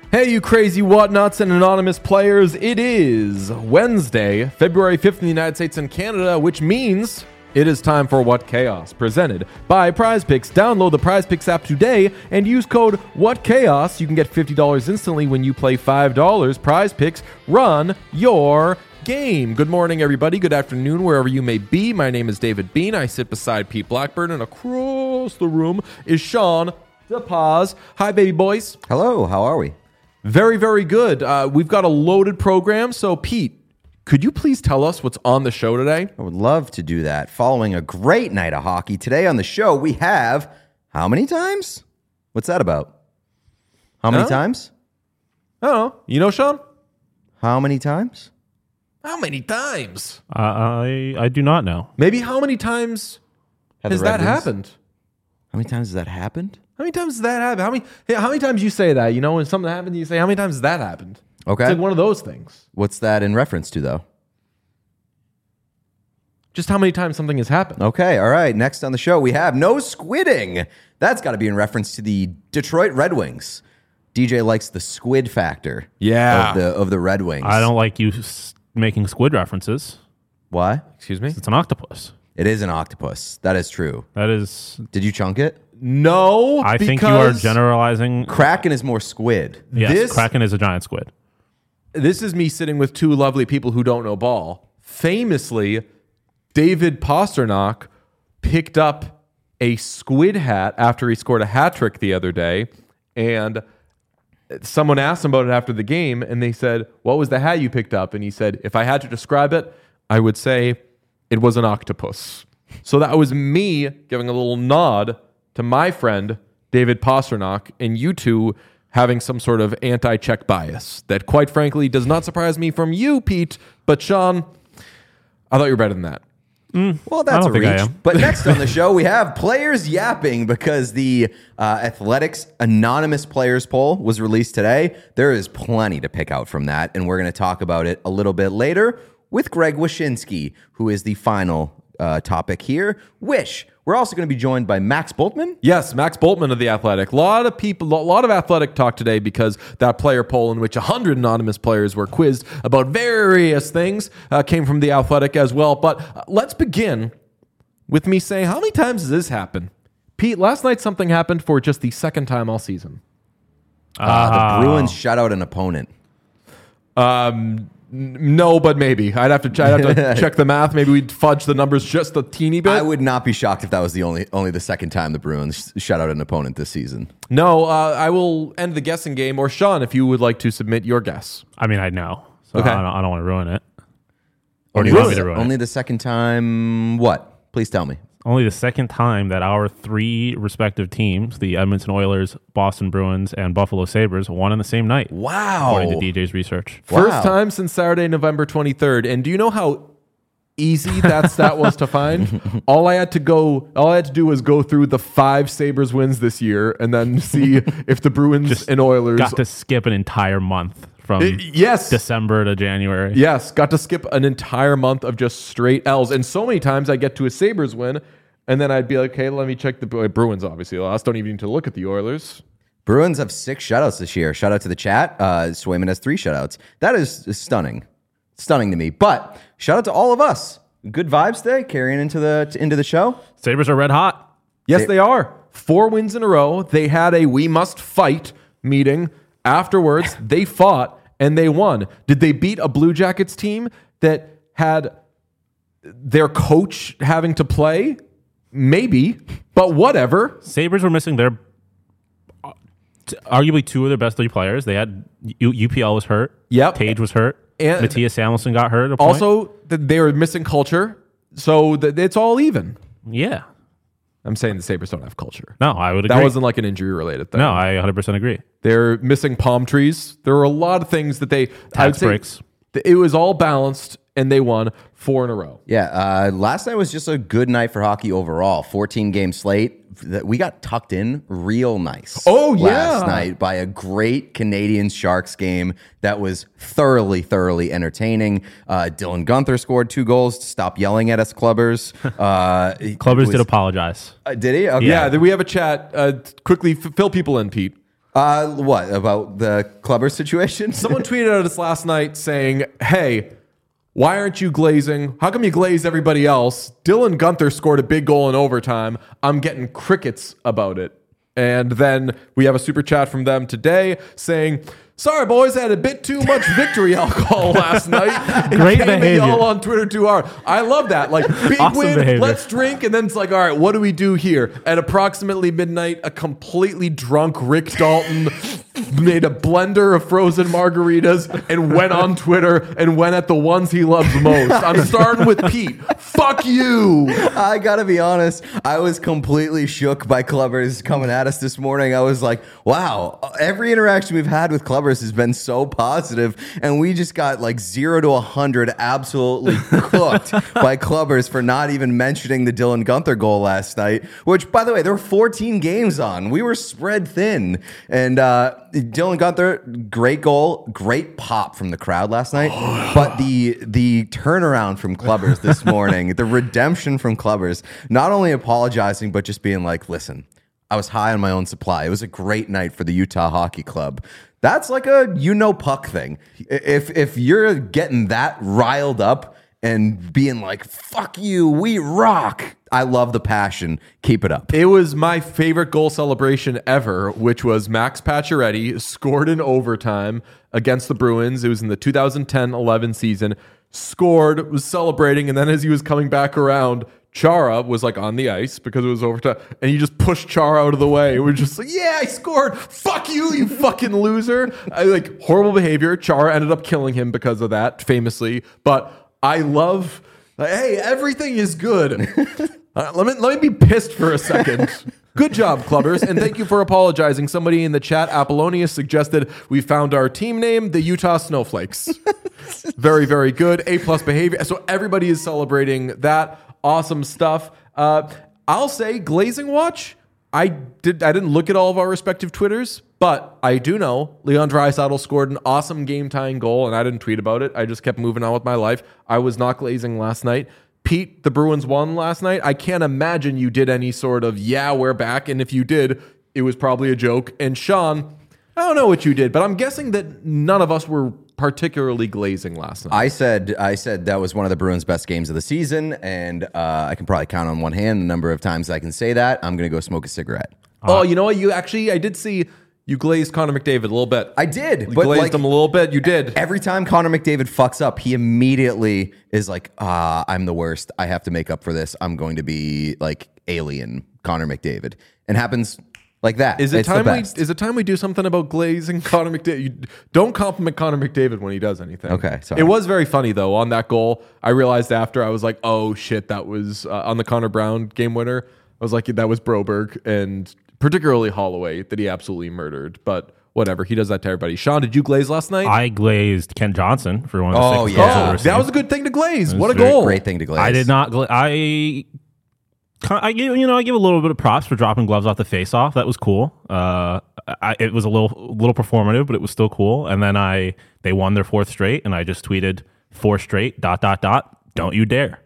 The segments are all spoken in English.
Hey, you crazy whatnots and anonymous players. It is Wednesday, February 5th in the United States and Canada, which means it is time for What Chaos, presented by PrizePicks. Download the PrizePicks app today and use code WhatChaos. You can get $50 instantly when you play $5. PrizePicks, run your game. Good morning, everybody. Good afternoon, wherever you may be. My name is David Bean. I sit beside Pete Blackburn, and across the room is Sean DePaz. Hi, baby boys. Hello, how are we? Very, very good. We've got a loaded program. So, Pete, could you please tell us what's on the show today? I would love to do that. Following a great night of hockey, today on the show we have how many times? What's that about? How many times? I don't know. You know, Sean? How many times? How many times? I do not know. Maybe how many times has that happened? How many times has that happened? How many times has that happened? How many times you say that? You know, when something happened, you say, how many times has that happened? Okay. It's like one of those things. What's that in reference to, though? Just how many times something has happened. Okay, all right. Next on the show, we have no squidding. That's got to be in reference to the Detroit Red Wings. DJ likes the squid factor of the Red Wings. I don't like you making squid references. Why? Excuse me? It's an octopus. It is an octopus. That is true. That is... Did you chunk it? No, I think you are generalizing. Kraken is more squid. Yes, Kraken is a giant squid. This is me sitting with two lovely people who don't know ball. Famously, David Pastrnak picked up a squid hat after he scored a hat trick the other day, and someone asked him about it after the game, and they said, "What was the hat you picked up?" And he said, "If I had to describe it, I would say it was an octopus." So that was me giving a little nod to my friend, David Pastrnak, and you two having some sort of anti-check bias that, quite frankly, does not surprise me from you, Pete. But, Sean, I thought you were better than that. Well, that's a reach. But next on the show, we have players yapping because the Athletics Anonymous Players Poll was released today. There is plenty to pick out from that, and we're going to talk about it a little bit later with Greg Wyshynski, who is the final topic here. Wish. We're also going to be joined by Max Bultman. Yes, Max Bultman of The Athletic. A lot of Athletic talk today because that player poll in which 100 anonymous players were quizzed about various things came from The Athletic as well. But let's begin with me saying, how many times has this happened? Pete, last night something happened for just the second time all season. The Bruins shut out an opponent. No, but maybe. I'd have to check the math. Maybe we'd fudge the numbers just a teeny bit. I would not be shocked if that was the only the second time the Bruins shut out an opponent this season. No, I will end the guessing game. Or Sean, if you would like to submit your guess. I mean, I know. So Okay. I don't want to ruin it. Or do you want me to ruin Only it? the second time what? Please tell me. Only the second time that our three respective teams, the Edmonton Oilers, Boston Bruins, and Buffalo Sabres, won on the same night. Wow. According to DJ's research. First time since Saturday, November 23rd. And do you know how easy that stat was to find? All I had to do was go through the 5 Sabres wins this year and then see if the Bruins and Oilers Got to skip an entire month from December to January. Yes, got to skip an entire month of just straight L's. And so many times I get to a Sabres win, and then I'd be like, okay, let me check the Bruins, obviously lost. Don't even need to look at the Oilers. Bruins have 6 shutouts this year. Shout out to the chat. Swayman has 3 shutouts. That is stunning. Stunning to me. But shout out to all of us. Good vibes today, carrying into the show. Sabres are red hot. Yes, they are. 4 wins in a row. They had a we must fight meeting. Afterwards, they fought and they won. Did they beat a Blue Jackets team that had their coach having to play? Maybe, but whatever. Sabres were missing their arguably 2 of their best 3 players. They had UPL was hurt. Yep. Tage was hurt. And Matthias Samuelsson got hurt at a point. also, they were missing culture, so it's all even. Yeah. I'm saying the Sabres don't have culture. No, I would agree. That wasn't like an injury-related thing. No, I 100% agree. They're missing palm trees. There were a lot of things that they... Tax breaks. It was all balanced, and they won 4 in a row. Yeah, last night was just a good night for hockey overall. 14-game slate. We got tucked in real nice. Oh, yeah. Last night by a great Canadians-Sharks game that was thoroughly, thoroughly entertaining. Dylan Gunther scored 2 goals to stop yelling at us, Clubbers. Clubbers did apologize. Did he? Okay. Yeah, we have a chat. Quickly, fill people in, Pete. What about the Clubber situation? Someone tweeted at us last night saying, hey, why aren't you glazing? How come you glaze everybody else? Dylan Guenther scored a big goal in overtime. I'm getting crickets about it. And then we have a super chat from them today saying, sorry, boys, I had a bit too much victory alcohol last night. Great behavior. All on Twitter too hard. I love that. Like, big Awesome win, behavior. let's drink. And then it's like, all right, what do we do here? At approximately midnight, a completely drunk Rick Dalton made a blender of frozen margaritas and went on Twitter and went at the ones he loves most. I'm starting with Pete. Fuck you. I gotta be honest, I was completely shook by Clubbers coming at us this morning. I was like, wow, every interaction we've had with Clubbers has been so positive, and we just got like 0 to 100 absolutely cooked by Clubbers for not even mentioning the Dylan Guenther goal last night, which, by the way, there were 14 games on. We were spread thin, and Dylan Guenther, great goal, great pop from the crowd last night. But the turnaround from Clubbers this morning, the redemption from Clubbers, not only apologizing, but just being like, listen, I was high on my own supply. It was a great night for the Utah Hockey Club. That's like a puck thing. If you're getting that riled up and being like, fuck you, we rock. I love the passion. Keep it up. It was my favorite goal celebration ever, which was Max Pacioretty scored in overtime against the Bruins. It was in the 2010-11 season. Scored, was celebrating, and then as he was coming back around, Chara was like on the ice because it was overtime, and he just pushed Chara out of the way. It was just like, yeah, I scored. Fuck you, you fucking loser. Horrible behavior. Chara ended up killing him because of that, famously. But I love, hey, everything is good. Let me be pissed for a second. Good job, Clubbers, and thank you for apologizing. Somebody in the chat, Apollonius, suggested we found our team name, the Utah Snowflakes. Very, very good. A+ behavior. So everybody is celebrating that. Awesome stuff. I'll say glazing watch. I didn't look at all of our respective Twitters, but I do know Leon Draisaitl scored an awesome game-tying goal, and I didn't tweet about it. I just kept moving on with my life. I was not glazing last night. Pete, the Bruins won last night. I can't imagine you did any sort of, yeah, we're back. And if you did, it was probably a joke. And Sean, I don't know what you did, but I'm guessing that none of us were particularly glazing last night. I said that was one of the Bruins' best games of the season, and I can probably count on one hand the number of times I can say that. I'm going to go smoke a cigarette. Oh, you know what? I did see you glazed Connor McDavid a little bit. I did. You glazed him a little bit. You did. Every time Connor McDavid fucks up, he immediately is like, I'm the worst. I have to make up for this. I'm going to be like alien Connor McDavid. And happens like that. Is it time we do something about glazing Connor McDavid? You don't compliment Connor McDavid when he does anything. Okay, sorry. It was very funny though on that goal. I realized after, I was like, oh shit, that was on the Connor Brown game winner. I was like, that was Broberg, and particularly Holloway that he absolutely murdered. But whatever, he does that to everybody. Sean, did you glaze last night? I glazed Kent Johnson for one of the six goals I've ever seen. That was a good thing to glaze. What a goal! Great thing to glaze. I did not. I give a little bit of props for dropping gloves off the face-off. That was cool. It was a little performative, but it was still cool. And then they won their fourth straight, and I just tweeted 4 straight ... Don't you dare.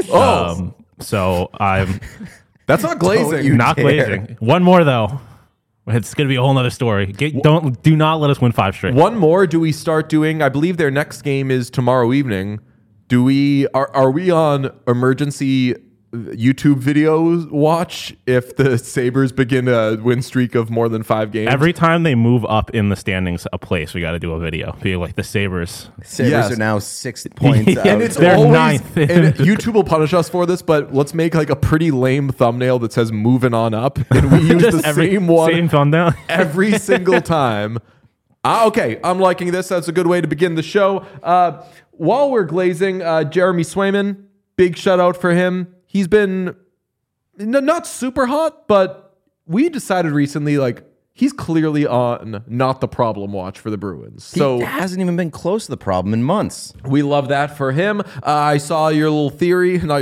So I'm. That's not glazing. Not glazing. One more though. It's going to be a whole nother story. Do not let us win 5 straight. One more. Do we start doing? I believe their next game is tomorrow evening. Are we on emergency YouTube videos watch if the Sabres begin a win streak of more than 5 games? Every time they move up in the standings a place, we got to do a video. Be like the Sabres. Are now 6 points out. And it's They're always, ninth. And YouTube will punish us for this, but let's make like a pretty lame thumbnail that says moving on up. And we use the same one same thumbnail. every single time. Okay, I'm liking this. That's a good way to begin the show. While we're glazing, Jeremy Swayman, big shout out for him. He's been not super hot, but we decided recently, like, he's clearly on not the problem watch for the Bruins. So he hasn't even been close to the problem in months. We love that for him. I saw your theory of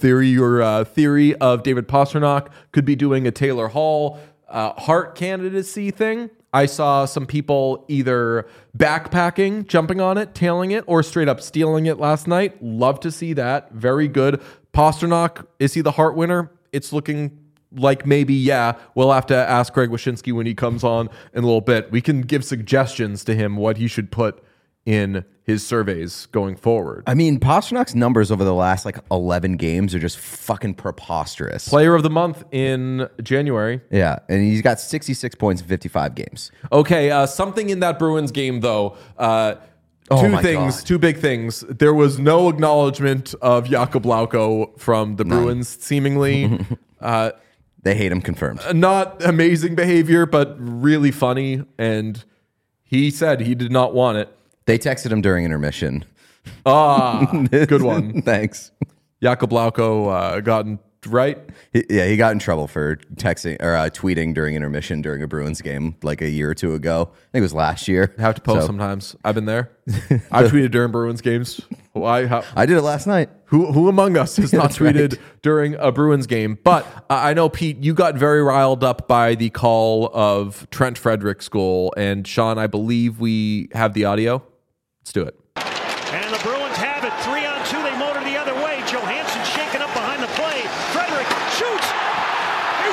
David Pastrnak could be doing a Taylor Hall Hart candidacy thing. I saw some people either backpacking, jumping on it, tailing it, or straight up stealing it last night. Love to see that. Very good. Pastrnak, is he the Hart winner? It's looking like maybe, yeah, we'll have to ask Greg Wyshynski when he comes on in a little bit. We can give suggestions to him what he should put in his surveys going forward. I mean, Pasternak's numbers over the last like 11 games are just fucking preposterous. Player of the month in January. Yeah, and he's got 66 points in 55 games. Okay, something in that Bruins game, though. Two big things. There was no acknowledgement of Jakub Lauko from the Bruins, seemingly. They hate him, confirmed. Not amazing behavior, but really funny. And he said he did not want it. They texted him during intermission. Good one. Thanks. Jakub Lauko gotten right. He got in trouble for texting or tweeting during intermission during a Bruins game like a year or two ago. I think it was last year. I have to post sometimes. I've been there. I tweeted during Bruins games. I did it last night. Who among us has not tweeted during a Bruins game? But I know, Pete, you got very riled up by the call of Trent Frederick's goal. And Sean, I believe we have the audio. Let's do it. And the Bruins have it. 3-on-2. They motor the other way. Johansson shaking up behind the play. Frederick shoots. He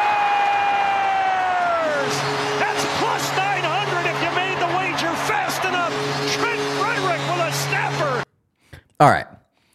scores! That's plus 900 if you made the wager fast enough. Trent Frederick with a snapper. All right.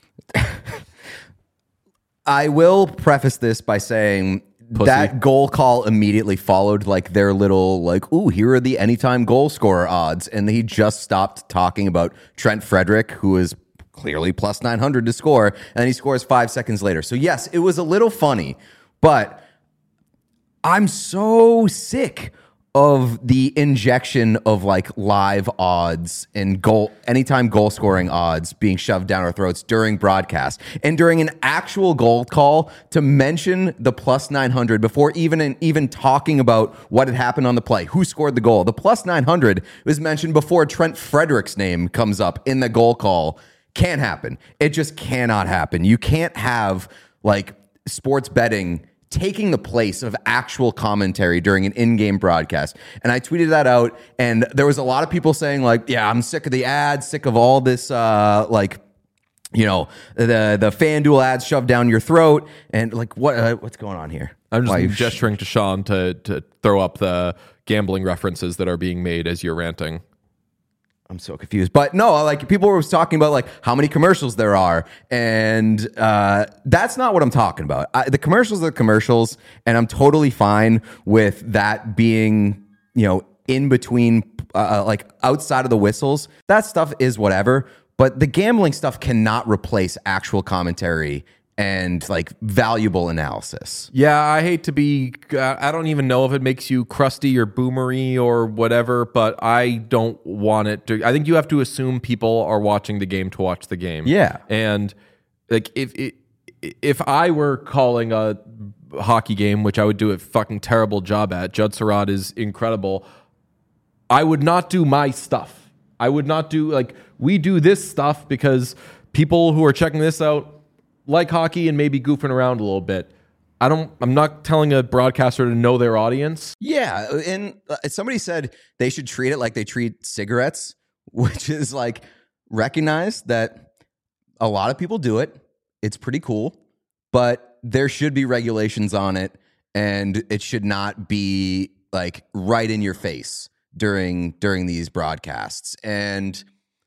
I will preface this by saying that goal call immediately followed like their little like, ooh, here are the anytime goal scorer odds. And he just stopped talking about Trent Frederick, who is clearly plus 900 to score. And then he scores 5 seconds later. So yes, it was a little funny, but I'm so sick of the injection of like live odds and anytime goal scoring odds being shoved down our throats during broadcast and during an actual goal call to mention the plus 900 before even talking about what had happened on the play, who scored the goal. The plus 900 was mentioned before Trent Frederick's name comes up in the goal call. Can't happen. It just cannot happen. You can't have like sports betting taking the place of actual commentary during an in-game broadcast. And I tweeted that out, and there was a lot of people saying like, yeah, I'm sick of the ads, sick of all this the FanDuel ads shoved down your throat. And like, what's going on here? I'm just gesturing to Sean to throw up the gambling references that are being made as you're ranting. I'm so confused. But no, like people were talking about like how many commercials there are. And that's not what I'm talking about. The commercials are commercials. And I'm totally fine with that being, in between, like outside of the whistles. That stuff is whatever. But the gambling stuff cannot replace actual commentary and like valuable analysis. Yeah, I hate to be, I don't even know if it makes you crusty or boomery or whatever, but I don't want it to. I think you have to assume people are watching the game to watch the game. Yeah. And like if I were calling a hockey game, which I would do a fucking terrible job at, Judd Surratt is incredible, I would not do my stuff. I would not do, like, we do this stuff because people who are checking this out like hockey and maybe goofing around a little bit. I'm not telling a broadcaster to know their audience. Yeah, and somebody said they should treat it like they treat cigarettes, which is like recognize that a lot of people do it. It's pretty cool, but there should be regulations on it, and it should not be like right in your face during these broadcasts. And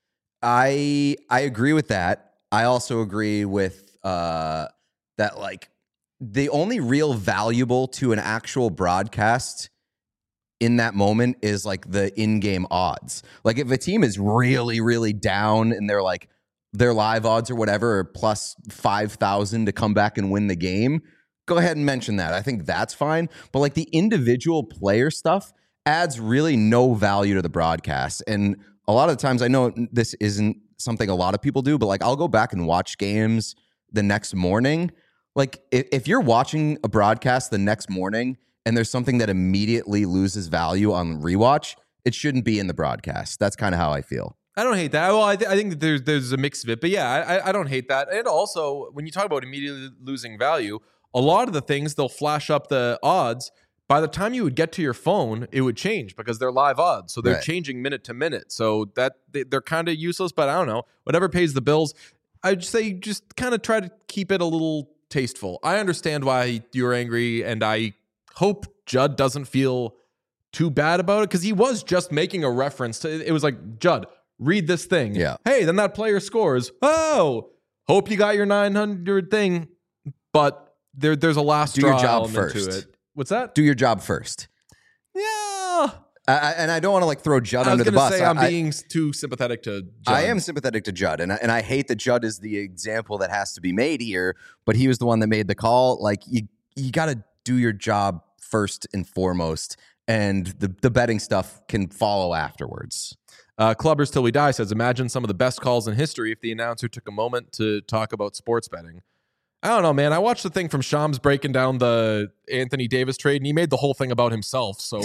I agree with that. I also agree with that like the only real valuable to an actual broadcast in that moment is like the in-game odds. Like if a team is really, really down and they're like their live odds or whatever are plus 5,000 to come back and win the game, go ahead and mention that. I think that's fine. But like the individual player stuff adds really no value to the broadcast. And a lot of the times, I know this isn't something a lot of people do, but like I'll go back and watch games the next morning. Like if you're watching a broadcast the next morning and there's something that immediately loses value on rewatch, it shouldn't be in the broadcast. That's kind of how I feel. I don't hate that. Well, I think that there's a mix of it, but yeah, I don't hate that. And also, when you talk about immediately losing value, a lot of the things they'll flash up the odds. By the time you would get to your phone, it would change because they're live odds. So they're changing minute to minute. So that they're kind of useless, but I don't know. Whatever pays the bills, I'd say just kind of try to keep it a little tasteful. I understand why you're angry, and I hope Judd doesn't feel too bad about it, because he was just making a reference to it. Was like, Judd, read this thing. Yeah. Hey, then that player scores. Oh, hope you got your 900 thing, but there's a last do your straw job element first. to it. What's that? Do your job first. Yeah. And I don't want to like throw Judd I was under the going to bus. say I'm being too sympathetic to Judd. I am sympathetic to Judd, and I hate that Judd is the example that has to be made here, but he was the one that made the call. Like, you got to do your job first and foremost, and the betting stuff can follow afterwards. Clubbers Till We Die says, imagine some of the best calls in history if the announcer took a moment to talk about sports betting. I don't know, man. I watched the thing from Shams breaking down the Anthony Davis trade, and he made the whole thing about himself. So,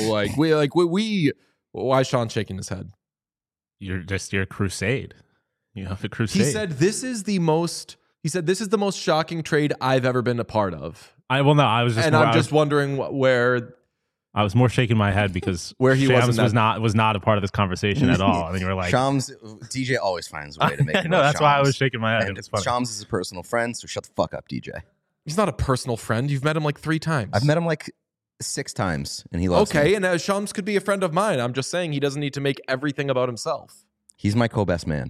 why is Sean shaking his head? You're your crusade. You have a crusade. He said, this is the most shocking trade I've ever been a part of. I'm just wondering where... I was more shaking my head because where he Shams was not a part of this conversation at all. And you were like, Shams, DJ always finds a way to make it. No, that's Shams. why I was shaking my head. And It's funny. Shams is a personal friend, so shut the fuck up, DJ. He's not a personal friend. You've met him like 3 times. I've met him like 6 times, and he loves me. Okay, and Shams could be a friend of mine. I'm just saying he doesn't need to make everything about himself. He's my co-best man.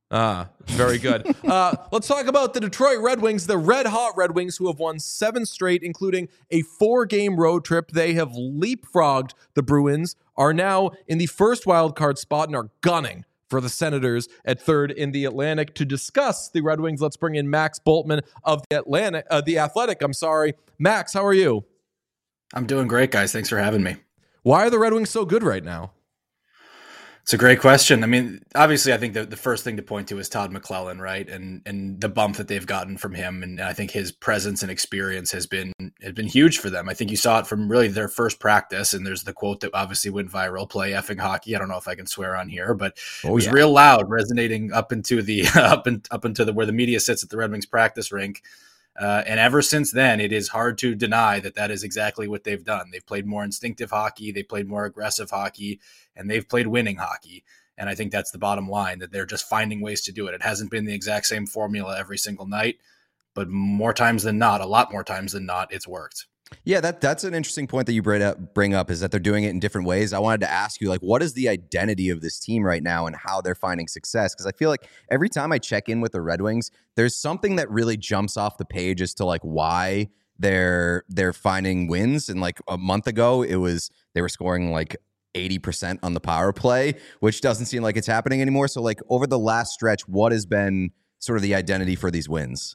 Very good. Let's talk about the Detroit Red Wings, the red-hot Red Wings, who have won 7 straight, including a 4-game road trip. They have leapfrogged the Bruins, are now in the first wild card spot, and are gunning for the Senators at 3rd in the Atlantic. To discuss the Red Wings, let's bring in Max Bultman of the Athletic. Max, how are you? I'm doing great, guys. Thanks for having me. Why are the Red Wings so good right now? It's a great question. I mean, obviously, I think the first thing to point to is Todd McLellan, right? And the bump that they've gotten from him. And I think his presence and experience has been huge for them. I think you saw it from really their first practice. And there's the quote that obviously went viral, play effing hockey. I don't know if I can swear on here, but it was real loud, resonating up into the up into where the media sits at the Red Wings practice rink. And ever since then, it is hard to deny that is exactly what they've done. They've played more instinctive hockey, they played more aggressive hockey, and they've played winning hockey. And I think that's the bottom line, that they're just finding ways to do it. It hasn't been the exact same formula every single night, but more times than not, a lot more times than not, it's worked. Yeah, that's an interesting point that you bring up, is that they're doing it in different ways. I wanted to ask you, like, what is the identity of this team right now and how they're finding success? Because I feel like every time I check in with the Red Wings, there's something that really jumps off the page as to like why they're finding wins. And like a month ago, they were scoring like 80% on the power play, which doesn't seem like it's happening anymore. So like over the last stretch, what has been sort of the identity for these wins?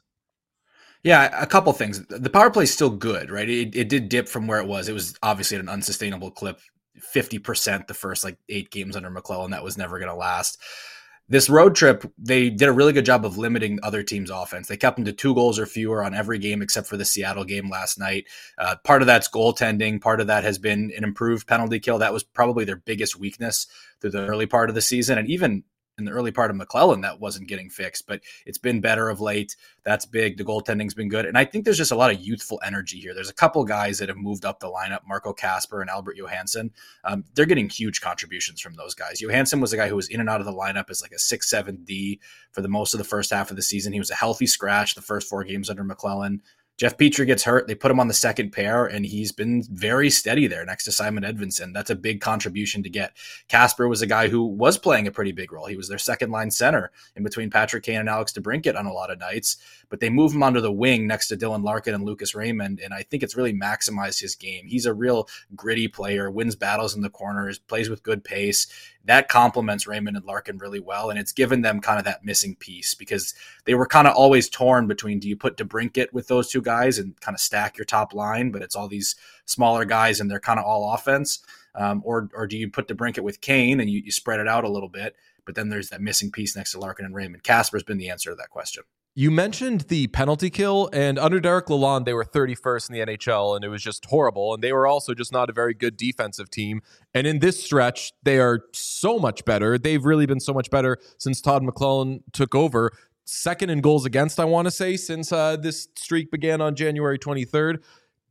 Yeah, a couple things. The power play is still good, right? It did dip from where it was. It was obviously at an unsustainable clip, 50% the first 8 games under McLellan. That was never going to last. This road trip, they did a really good job of limiting other teams' offense. They kept them to 2 goals or fewer on every game except for the Seattle game last night. Part of that's goaltending. Part of that has been an improved penalty kill. That was probably their biggest weakness through the early part of the season. And even in the early part of McLellan, that wasn't getting fixed, but it's been better of late. That's big. The goaltending's been good. And I think there's just a lot of youthful energy here. There's a couple guys that have moved up the lineup, Marco Kasper and Albert Johansson. They're getting huge contributions from those guys. Johansson was a guy who was in and out of the lineup as like a 6-7 D for the most of the first half of the season. He was a healthy scratch the first 4 games under McLellan. Jeff Petrie gets hurt. They put him on the second pair, and he's been very steady there next to Simon Edvinsson. That's a big contribution to get. Kasper was a guy who was playing a pretty big role. He was their second-line center in between Patrick Kane and Alex DeBrincat on a lot of nights, but they move him onto the wing next to Dylan Larkin and Lucas Raymond, and I think it's really maximized his game. He's a real gritty player, wins battles in the corners, plays with good pace. That complements Raymond and Larkin really well, and it's given them kind of that missing piece because they were kind of always torn between, do you put DeBrincat with those 2 guys and kind of stack your top line, but it's all these smaller guys and they're kind of all offense, or do you put DeBrincat with Kane and you spread it out a little bit, but then there's that missing piece next to Larkin and Raymond. Kasper's been the answer to that question. You mentioned the penalty kill, and under Derek Lalonde, they were 31st in the NHL, and it was just horrible. And they were also just not a very good defensive team. And in this stretch, they are so much better. They've really been so much better since Todd McLellan took over. 2nd in goals against, I want to say, since this streak began on January 23rd.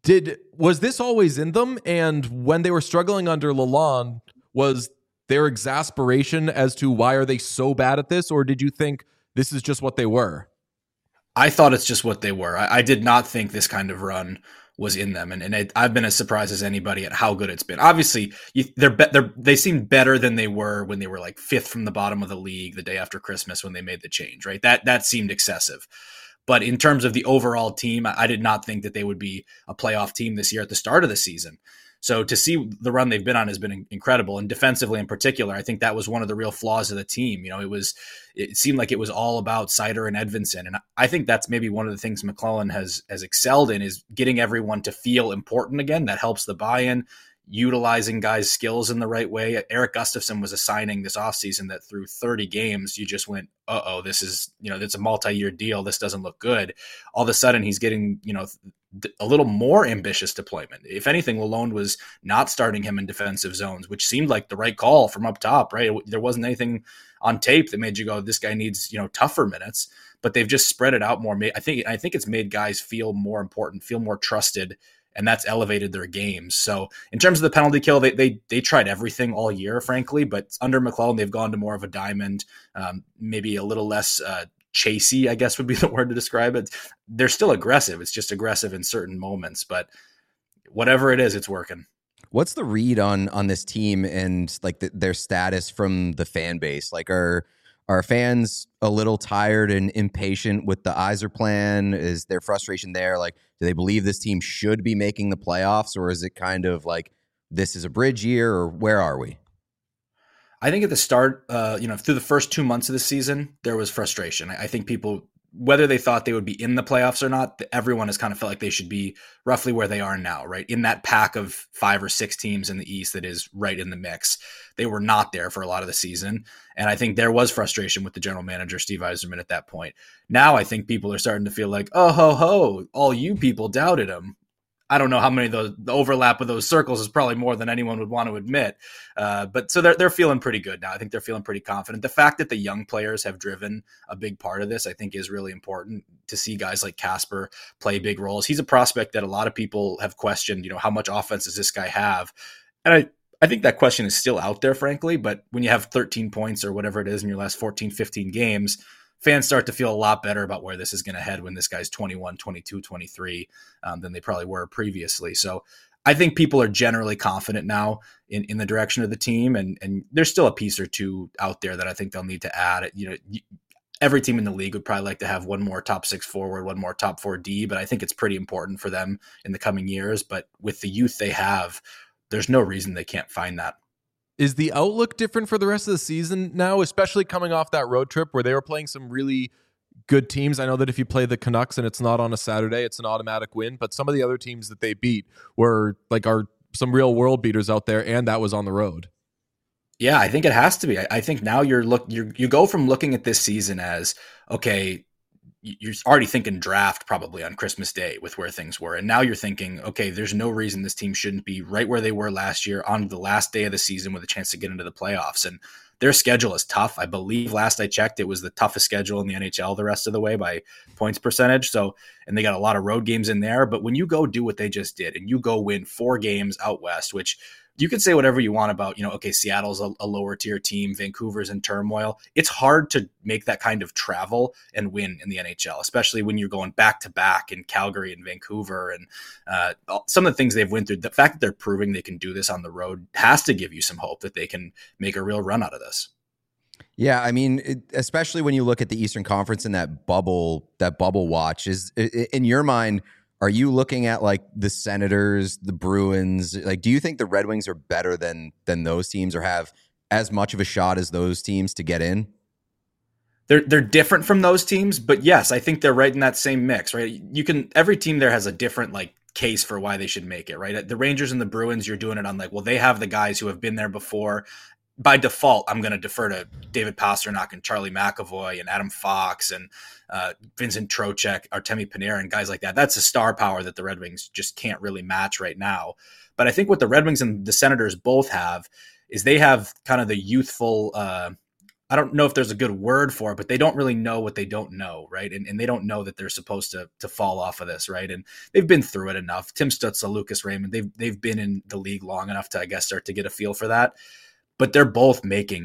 Was this always in them? And when they were struggling under Lalonde, was their exasperation as to why are they so bad at this? Or did you think this is just what they were? I thought it's just what they were. I did not think this kind of run was in them, and I've been as surprised as anybody at how good it's been. Obviously, they seem better than they were when they were like fifth from the bottom of the league the day after Christmas when they made the change, right? That seemed excessive. But in terms of the overall team, I did not think that they would be a playoff team this year at the start of the season. So to see the run they've been on has been incredible. And defensively in particular, I think that was one of the real flaws of the team. You know, it seemed like it was all about Seider and Edvinsson. And I think that's maybe one of the things McClellan has excelled in, is getting everyone to feel important again. That helps the buy-in, utilizing guys' skills in the right way. Eric Gustafsson was a signing this offseason that through 30 games, you just went, this is, it's a multi-year deal. This doesn't look good. All of a sudden he's getting, a little more ambitious deployment. If anything, Lalonde was not starting him in defensive zones, which seemed like the right call from up top, right? There wasn't anything on tape that made you go, this guy needs, tougher minutes, but they've just spread it out more. I think it's made guys feel more important, feel more trusted, and that's elevated their games. So in terms of the penalty kill, they tried everything all year, frankly, but under McClellan, they've gone to more of a diamond, maybe a little less chasey, I guess would be the word to describe it. They're still aggressive. It's just aggressive in certain moments, but whatever it is, it's working. What's the read on this team and like their status from the fan base? Like, are fans a little tired and impatient with the Yzer plan? Is there frustration there? Like, do they believe this team should be making the playoffs, or is it kind of like this is a bridge year, or where are we? I think at the start, through the first 2 months of the season, there was frustration. I think people, whether they thought they would be in the playoffs or not, everyone has kind of felt like they should be roughly where they are now, right? In that pack of 5 or 6 teams in the East that is right in the mix. They were not there for a lot of the season. And I think there was frustration with the general manager, Steve Yzerman, at that point. Now I think people are starting to feel like, oh, ho, ho, all you people doubted him. I don't know how many of the overlap of those circles is probably more than anyone would want to admit. But so they're feeling pretty good now. I think they're feeling pretty confident. The fact that the young players have driven a big part of this, I think, is really important to see guys like Casper play big roles. He's a prospect that a lot of people have questioned, how much offense does this guy have? And I think that question is still out there, frankly, but when you have 13 points or whatever it is in your last 14, 15 games, fans start to feel a lot better about where this is going to head when this guy's 21, 22, 23 than they probably were previously. So I think people are generally confident now in the direction of the team. And there's still a piece or two out there that I think they'll need to add. Every team in the league would probably like to have one more top 6 forward, one more top 4 D, but I think it's pretty important for them in the coming years. But with the youth they have, there's no reason they can't find that. Is the outlook different for the rest of the season now, especially coming off that road trip where they were playing some really good teams? I know that if you play the Canucks and it's not on a Saturday, it's an automatic win, but some of the other teams that they beat were are some real world beaters out there, and that was on the road. Yeah, I think it has to be. I think now you go from looking at this season as, okay, you're already thinking draft probably on Christmas Day with where things were. And now you're thinking, okay, there's no reason this team shouldn't be right where they were last year on the last day of the season with a chance to get into the playoffs. And their schedule is tough. I believe last I checked, it was the toughest schedule in the NHL the rest of the way by points percentage. So, and they got a lot of road games in there, but when you go do what they just did and you go win 4 games out West, which you can say whatever you want about, okay, Seattle's a lower tier team, Vancouver's in turmoil. It's hard to make that kind of travel and win in the NHL, especially when you're going back to back in Calgary and Vancouver and some of the things they've went through. The fact that they're proving they can do this on the road has to give you some hope that they can make a real run out of this. Yeah, I mean, especially when you look at the Eastern Conference and that bubble watch, is in your mind, are you looking at like the Senators, the Bruins? Like, do you think the Red Wings are better than those teams or have as much of a shot as those teams to get in? They're different from those teams, but yes, I think they're right in that same mix, right? Every team there has a different case for why they should make it, right? The Rangers and the Bruins, you're doing it on they have the guys who have been there before. By default, I'm going to defer to David Pastrnak and Charlie McAvoy and Adam Fox and Vincent Trocheck, Artemi Panarin, guys like that. That's a star power that the Red Wings just can't really match right now. But I think what the Red Wings and the Senators both have is they have kind of the youthful, I don't know if there's a good word for it, but they don't really know what they don't know, right? And they don't know that they're supposed to fall off of this, right? And they've been through it enough. Tim Stützle, Lucas Raymond, they've been in the league long enough to, I guess, start to get a feel for that. But they're both making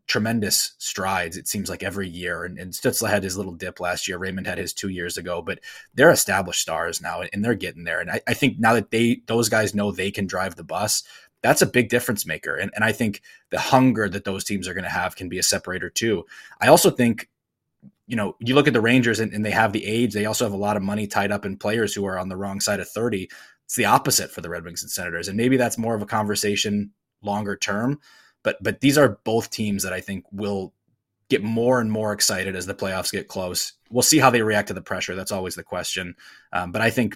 tremendous strides, it seems like, every year. And Stützle had his little dip last year. Raymond had his 2 years ago, but they're established stars now, and they're getting there. And I think now that those guys know they can drive the bus, that's a big difference maker. And I think the hunger that those teams are going to have can be a separator too. I also think, you look at the Rangers and they have the age. They also have a lot of money tied up in players who are on the wrong side of 30. It's the opposite for the Red Wings and Senators. And maybe that's more of a conversation longer term. But these are both teams that I think will get more and more excited as the playoffs get close. We'll see how they react to the pressure. That's always the question. But I think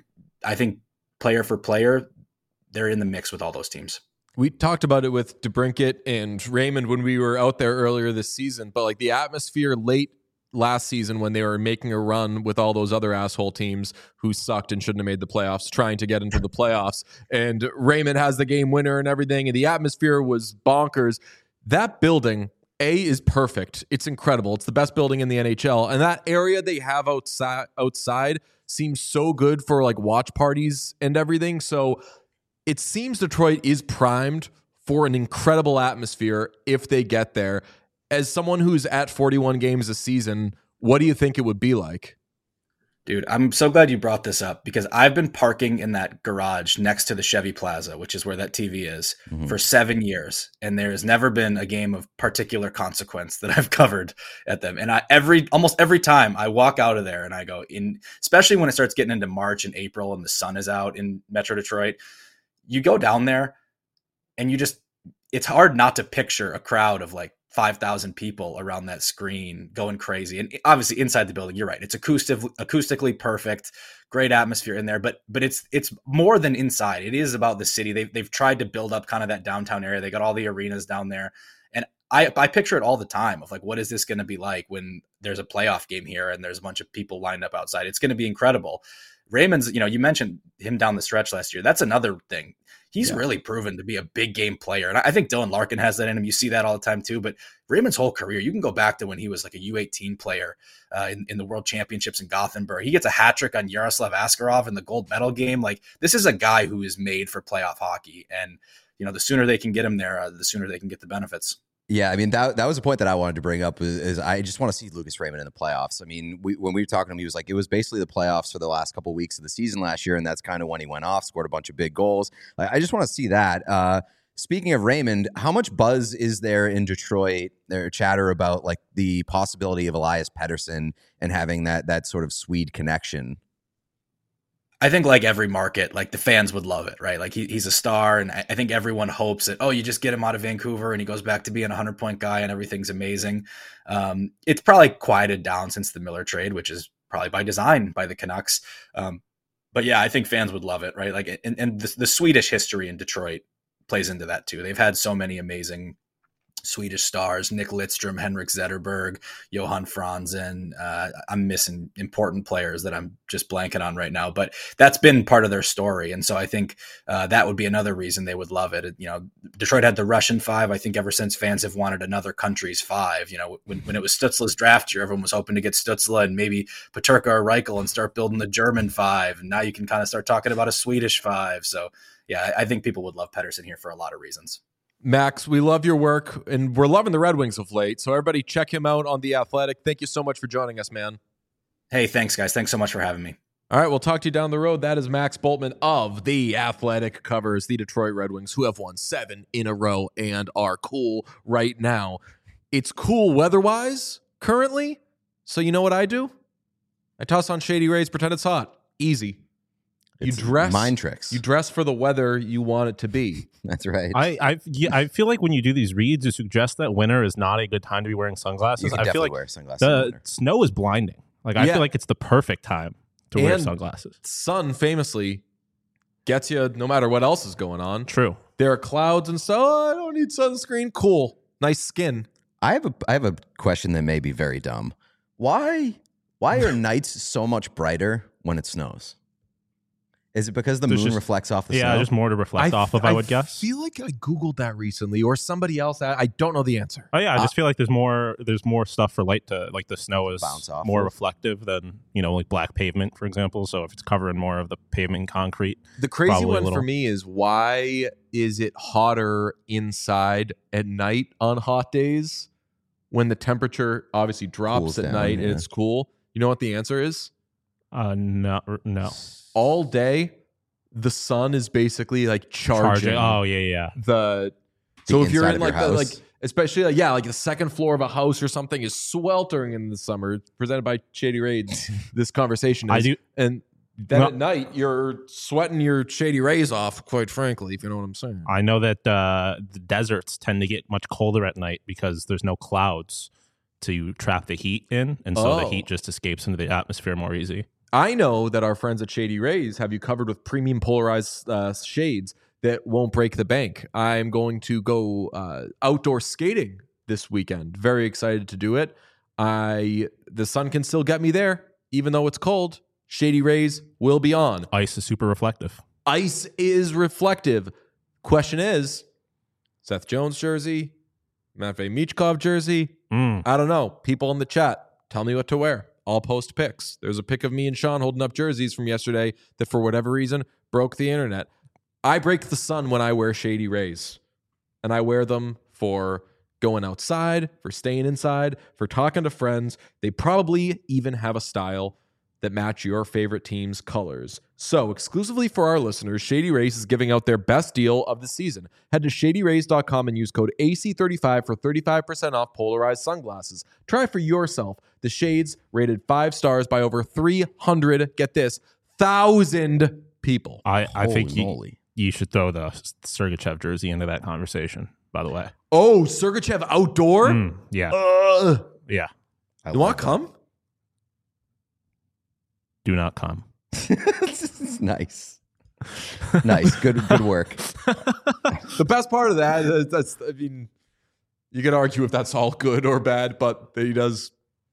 player for player, they're in the mix with all those teams. We talked about it with DeBrincat and Raymond when we were out there earlier this season, but like the atmosphere late last season when they were making a run with all those other asshole teams who sucked and shouldn't have made the playoffs, trying to get into the playoffs, and Raymond has the game winner and everything, and the atmosphere was bonkers. That building, is perfect. It's incredible. It's the best building in the NHL, and that area they have outside seems so good for like watch parties and everything. So it seems Detroit is primed for an incredible atmosphere if they get there. As someone who's at 41 games a season, what do you think it would be like? Dude, I'm so glad you brought this up, because I've been parking in that garage next to the Chevy Plaza, which is where that TV is, for 7 years. And there has never been a game of particular consequence that I've covered at them. And almost every time I walk out of there and I go in, especially when it starts getting into March and April and the sun is out in Metro Detroit, you go down there and it's hard not to picture a crowd of like 5,000 people around that screen going crazy. And obviously inside the building, you're right, it's acoustically perfect, great atmosphere in there, but it's more than inside. It is about the city. They've tried to build up kind of that downtown area. They got all the arenas down there. And I picture it all the time of like, what is this going to be like when there's a playoff game here and there's a bunch of people lined up outside? It's going to be incredible. Raymond's, you mentioned him down the stretch last year. That's another thing. He's really proven to be a big game player. And I think Dylan Larkin has that in him. You see that all the time too. But Raymond's whole career, you can go back to when he was like a U18 player in the World Championships in Gothenburg. He gets a hat trick on Yaroslav Askarov in the gold medal game. Like, this is a guy who is made for playoff hockey. And, the sooner they can get him there, the sooner they can get the benefits. Yeah, I mean, that was a point that I wanted to bring up is I just want to see Lucas Raymond in the playoffs. I mean, when we were talking to him, he was like, it was basically the playoffs for the last couple of weeks of the season last year, and that's kind of when he went off, scored a bunch of big goals. I just want to see that. Speaking of Raymond, how much buzz is there in Detroit, there chatter about like the possibility of Elias Pettersson and having that sort of Swede connection? I think like every market, like the fans would love it, right? Like he's a star, and I think everyone hopes that, you just get him out of Vancouver and he goes back to being a 100-point guy and everything's amazing. It's probably quieted down since the Miller trade, which is probably by design by the Canucks. But yeah, I think fans would love it, right? Like, and the Swedish history in Detroit plays into that too. They've had so many amazing Swedish stars: Nick Lidstrom, Henrik Zetterberg, Johan Franzen. I'm missing important players that I'm just blanking on right now, but that's been part of their story. And so I think that would be another reason they would love it. Detroit had the Russian Five. I think ever since fans have wanted another country's five. When it was Stützle's draft year, everyone was hoping to get Stützle and maybe Peterka or Reichel and start building the German Five. And now you can kind of start talking about a Swedish Five. So yeah, I think people would love Pettersson here for a lot of reasons. Max, we love your work, and we're loving the Red Wings of late. So everybody check him out on The Athletic. Thank you so much for joining us, man. Hey, thanks, guys. Thanks so much for having me. All right, we'll talk to you down the road. That is Max Bultman of The Athletic, covers the Detroit Red Wings, who have won 7 in a row and are cool right now. It's cool weather-wise currently, so you know what I do? I toss on Shady Rays, pretend it's hot. Easy. It's mind tricks. You dress for the weather you want it to be. That's right. I feel like when you do these reads, you suggest that winter is not a good time to be wearing sunglasses. You can I feel like wear sunglasses the snow is blinding. Like I feel like it's the perfect time to wear sunglasses. Sun famously gets you no matter what else is going on. True. There are clouds and so I don't need sunscreen. Cool. Nice skin. I have a question that may be very dumb. Why are nights so much brighter when it snows? Is it because the moon reflects off the snow? Yeah, just more to reflect off of, I would guess. I feel like I Googled that recently, or somebody else. I don't know the answer. Oh, yeah, I just feel like there's more stuff for light to, like the snow is bounce off more reflective than, like black pavement, for example. So if it's covering more of the pavement and concrete. The crazy one for me is, why is it hotter inside at night on hot days when the temperature obviously drops Cools at down, night yeah. and it's cool? You know what the answer is? No. All day, the sun is basically like charging. Oh yeah. So if you're inside in of like your the, house. like especially like the second floor of a house or something is sweltering in the summer. It's presented by Shady Rays. This conversation is. I do. And then at night you're sweating your Shady Rays off, quite frankly, if you know what I'm saying. I know that the deserts tend to get much colder at night because there's no clouds to trap the heat in, and so the heat just escapes into the atmosphere more easy. I know that our friends at Shady Rays have you covered with premium polarized shades that won't break the bank. I'm going to go outdoor skating this weekend. Very excited to do it. The sun can still get me there, even though it's cold. Shady Rays will be on. Ice is super reflective. Ice is reflective. Question is, Seth Jones jersey, Matvei Michkov jersey. I don't know. People in the chat, tell me what to wear. I'll post pics. There's a pic of me and Sean holding up jerseys from yesterday that for whatever reason broke the internet. I break the sun when I wear Shady Rays. And I wear them for going outside, for staying inside, for talking to friends. They probably even have a style that match your favorite team's colors. So, exclusively for our listeners, Shady Rays is giving out their best deal of the season. Head to shadyrays.com and use code AC35 for 35% off polarized sunglasses. Try for yourself the shades rated 5 stars by over 300, get this, 1,000 people. I think you should throw the Sergachev jersey into that conversation, by the way. Oh, Sergachev outdoor? Yeah. Yeah. You want to come? Do not come. Nice. Nice. Good work. The best part of that, that's, I mean, you could argue if that's all good or bad, but he does.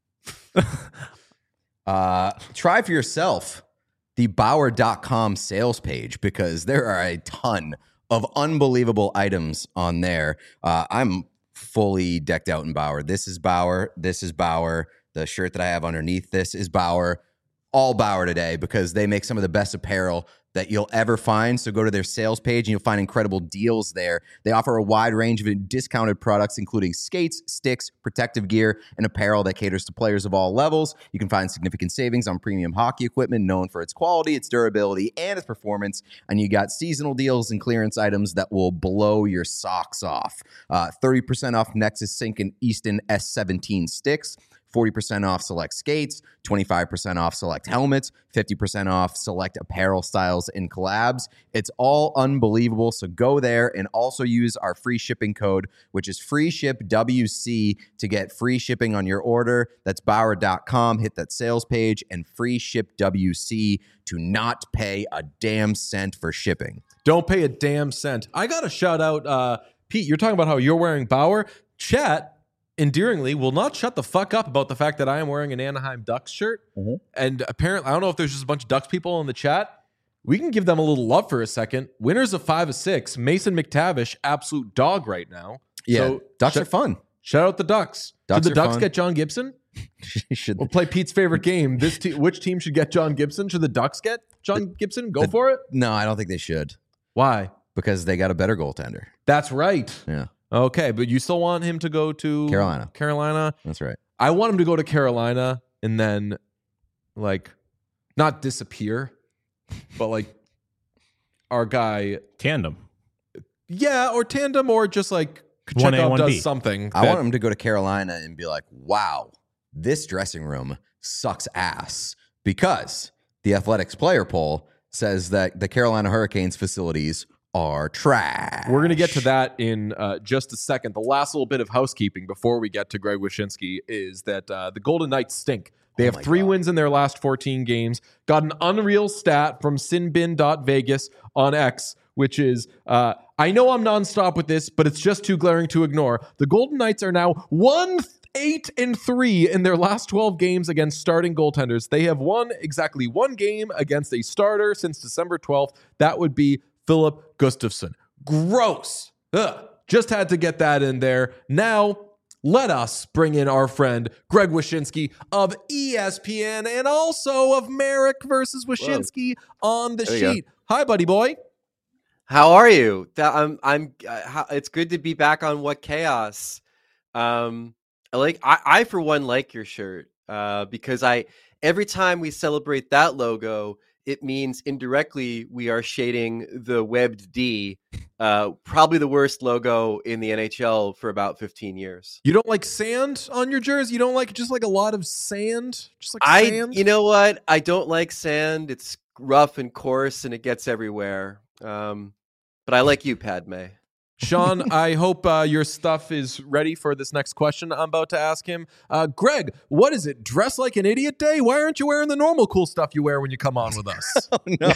Try for yourself the Bauer.com sales page because there are a ton of unbelievable items on there. I'm fully decked out in Bauer. This is Bauer. This is Bauer. The shirt that I have underneath this is Bauer. All Bauer today because they make some of the best apparel that you'll ever find. So go to their sales page and you'll find incredible deals there. They offer a wide range of discounted products, including skates, sticks, protective gear, and apparel that caters to players of all levels. You can find significant savings on premium hockey equipment known for its quality, its durability, and its performance. And you got seasonal deals and clearance items that will blow your socks off. 30% off Nexus Sink and Easton S17 sticks. 40% off select skates, 25% off select helmets, 50% off select apparel styles and collabs. It's all unbelievable. So go there and also use our free shipping code, which is FreeShipWC to get free shipping on your order. That's Bauer.com. Hit that sales page and FreeShipWC to not pay a damn cent for shipping. Don't pay a damn cent. I got to shout out, Pete, you're talking about how you're wearing Bauer. Chat endearingly will not shut the fuck up about the fact that I am wearing an Anaheim Ducks shirt. Mm-hmm. And apparently, I don't know if there's just a bunch of Ducks people in the chat. We can give them a little love for a second. Winners of 5 of 6. Mason McTavish, absolute dog right now. Yeah, so Ducks are fun. Shout out the Ducks. Should the Ducks get John Gibson? Should we'll play Pete's favorite game. Which team should get John Gibson? Should the Ducks get John Gibson? Go for it? No, I don't think they should. Why? Because they got a better goaltender. That's right. Yeah. Okay, but you still want him to go to Carolina? That's right. I want him to go to Carolina and then, like, not disappear, but, like, our guy... Tandem. Yeah, or tandem, or just, like, Chekhov does something. I want him to go to Carolina and be like, wow, this dressing room sucks ass. Because the Athletics player poll says that the Carolina Hurricanes facilities are trash. We're going to get to that in just a second. The last little bit of housekeeping before we get to Greg Wyshynski is that the Golden Knights stink. They have 3 wins in their last 14 games. Got an unreal stat from sinbin.vegas on X, which is, I know I'm nonstop with this, but it's just too glaring to ignore. The Golden Knights are now 1-8-3 in their last 12 games against starting goaltenders. They have won exactly 1 game against a starter since December 12th. That would be Philip Gustafsson. Gross. Ugh. Just had to get that in there. Now, let us bring in our friend Greg Wyshynski of ESPN and also of Merrick versus Wyshynski on the sheet. Hi, buddy boy. How are you? It's good to be back on What Chaos. I for one like your shirt because every time we celebrate that logo, it means indirectly we are shading the webbed D, probably the worst logo in the NHL for about 15 years. You don't like sand on your jersey? You don't like just like a lot of sand? Just like sand? You know what? I don't like sand. It's rough and coarse and it gets everywhere. But I like you, Padme. Sean, I hope your stuff is ready for this next question I'm about to ask him. Greg, what is it? Dress like an idiot day? Why aren't you wearing the normal cool stuff you wear when you come on with us?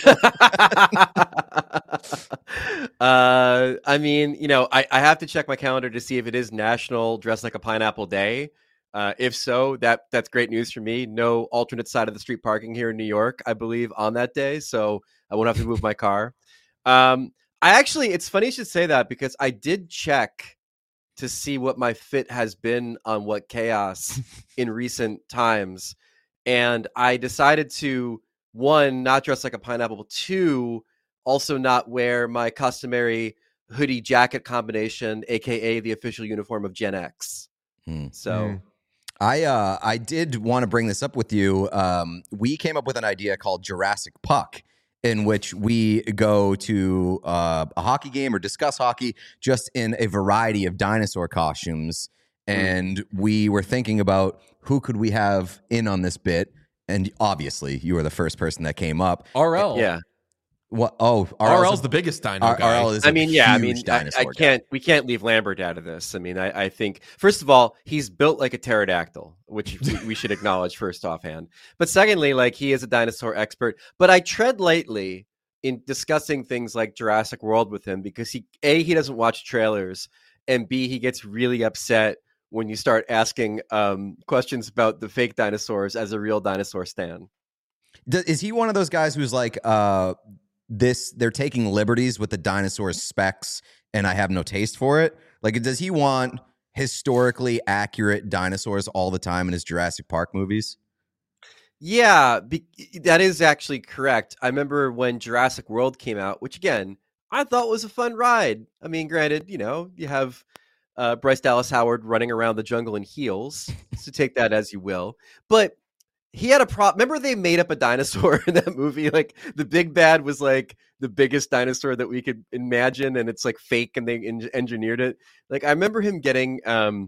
I mean, I have to check my calendar to see if it is National Dress Like a Pineapple Day. If so, that's great news for me. No alternate side of the street parking here in New York, I believe, on that day, so I won't have to move my car. It's funny you should say that because I did check to see what my fit has been on What Chaos in recent times. And I decided to, 1, not dress like a pineapple, 2, also not wear my customary hoodie jacket combination, AKA the official uniform of Gen X. So I did want to bring this up with you. We came up with an idea called Jurassic Puck, in which we go to a hockey game or discuss hockey just in a variety of dinosaur costumes. And we were thinking about who could we have in on this bit. And obviously, you were the first person that came up. RL. Yeah. What? Oh, RL's the biggest dino guy. RL is huge dinosaur guy. We can't leave Lambert out of this. I mean, I think, first of all, he's built like a pterodactyl, which we should acknowledge first offhand. But secondly, like, he is a dinosaur expert. But I tread lightly in discussing things like Jurassic World with him because he doesn't watch trailers, and B, he gets really upset when you start asking questions about the fake dinosaurs as a real dinosaur stan. Is he one of those guys who's like, they're taking liberties with the dinosaur specs and I have no taste for it? Like, does he want historically accurate dinosaurs all the time in his Jurassic Park movies? Yeah, that is actually correct. I remember when Jurassic World came out, which again, I thought was a fun ride. I mean, granted, you have Bryce Dallas Howard running around the jungle in heels, so take that as you will. But he had a remember they made up a dinosaur in that movie? Like, the big bad was like the biggest dinosaur that we could imagine, and it's like fake, and they engineered it. Like, I remember him getting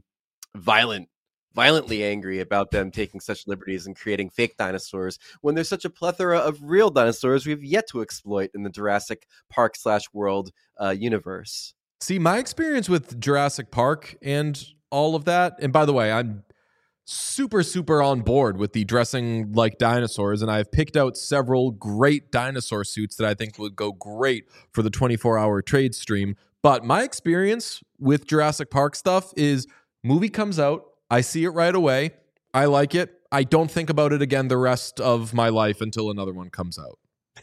violently angry about them taking such liberties and creating fake dinosaurs when there's such a plethora of real dinosaurs we've yet to exploit in the Jurassic Park /World universe. See, my experience with Jurassic Park and all of that, and by the way, I'm super, super on board with the dressing like dinosaurs, and I've picked out several great dinosaur suits that I think would go great for the 24-hour trade stream. But my experience with Jurassic Park stuff is movie comes out, I see it right away, I like it, I don't think about it again the rest of my life until another one comes out.